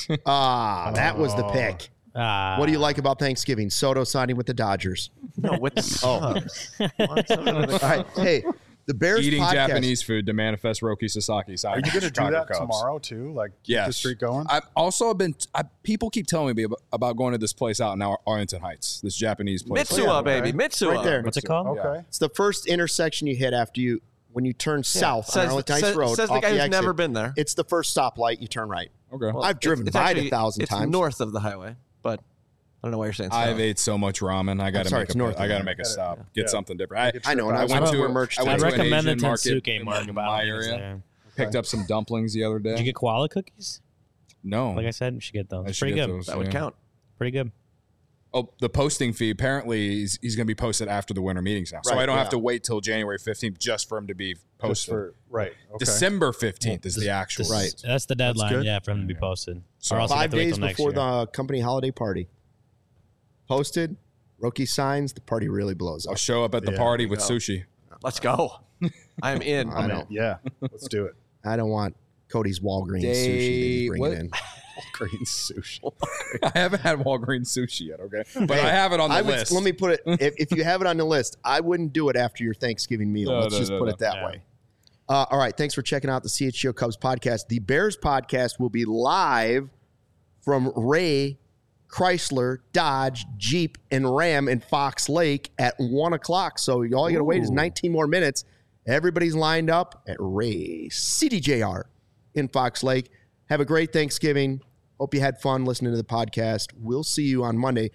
That was the pick. What do you like about Thanksgiving? Soto signing with the Dodgers. No, with the Cubs. Juan Soto with the All right, hey, the Bears Eating podcast. Japanese food to manifest Roki Sasaki. Are you going to do that tomorrow too? Like keep the Yes. streak going? I've also been. People keep telling me about going to this place out in Arlington Heights. This Japanese place. Mitsuya, baby, Mitsuya. Right there. What's it called? Okay. It's the first intersection you hit after when you turn south on Says, Arlington Heights Road. says the off guy who's exit. never been there. It's the first stoplight. You turn right. Okay. Well, I've driven it's by it actually- 1,000 times. It's north of the highway, but I don't know why you're saying south. I've ate so much ramen. I got sorry, to it's north I of got to there. make a stop. Yeah. Get something different. I know, and I went went to to a merch. I I'd went to an recommend the Asian market Tensuke in market. my area. Picked up some dumplings the other day. Did you get koala cookies? No. Like I said, you should get those. I It's should pretty get good. those, that would yeah. count. Pretty good. Oh, the posting fee. Apparently, he's going to be posted after the winter meetings now. So Right, I don't have yeah. to wait till January 15th just for him to be Just posted. for right. Okay. December 15th is the actual. Right. That's the deadline, good. yeah, for them to be posted. So or else you have 5 to wait days till next before year. the company holiday party. Posted, rookie signs, the party really blows I'll up. show up at the Yeah, party there with we go. sushi. Let's go. I'm in. I know. Yeah. Let's do it. I don't want Cody's Walgreens sushi that he's bringing what? in. Green sushi. I haven't had Walgreens sushi yet, okay? But I have it on the I would, list. let me put it, if you have it on the list, I wouldn't do it after your Thanksgiving meal. No, Let's no, just no, put no. it that Yeah. way. All right. Thanks for checking out the CHGO Cubs podcast. The Bears podcast will be live from Ray Chrysler, Dodge, Jeep, and Ram in Fox Lake at 1 o'clock. So all you got to wait is 19 more minutes. Everybody's lined up at Ray CDJR in Fox Lake. Have a great Thanksgiving. Hope you had fun listening to the podcast. We'll see you on Monday.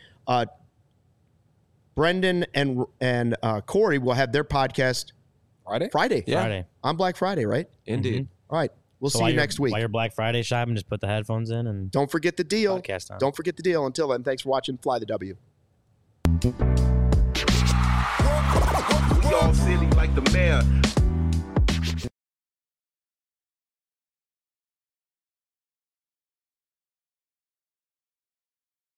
Brendan and Corey will have their podcast Friday? Yeah. Friday. on Black Friday, right? Indeed. All right. We'll So see while you you're- next week. While you're Black Friday shopping, just put the headphones in and Don't forget the deal. podcast on. Don't forget the deal. Until then, thanks for watching Fly the W. We all silly like the mayor.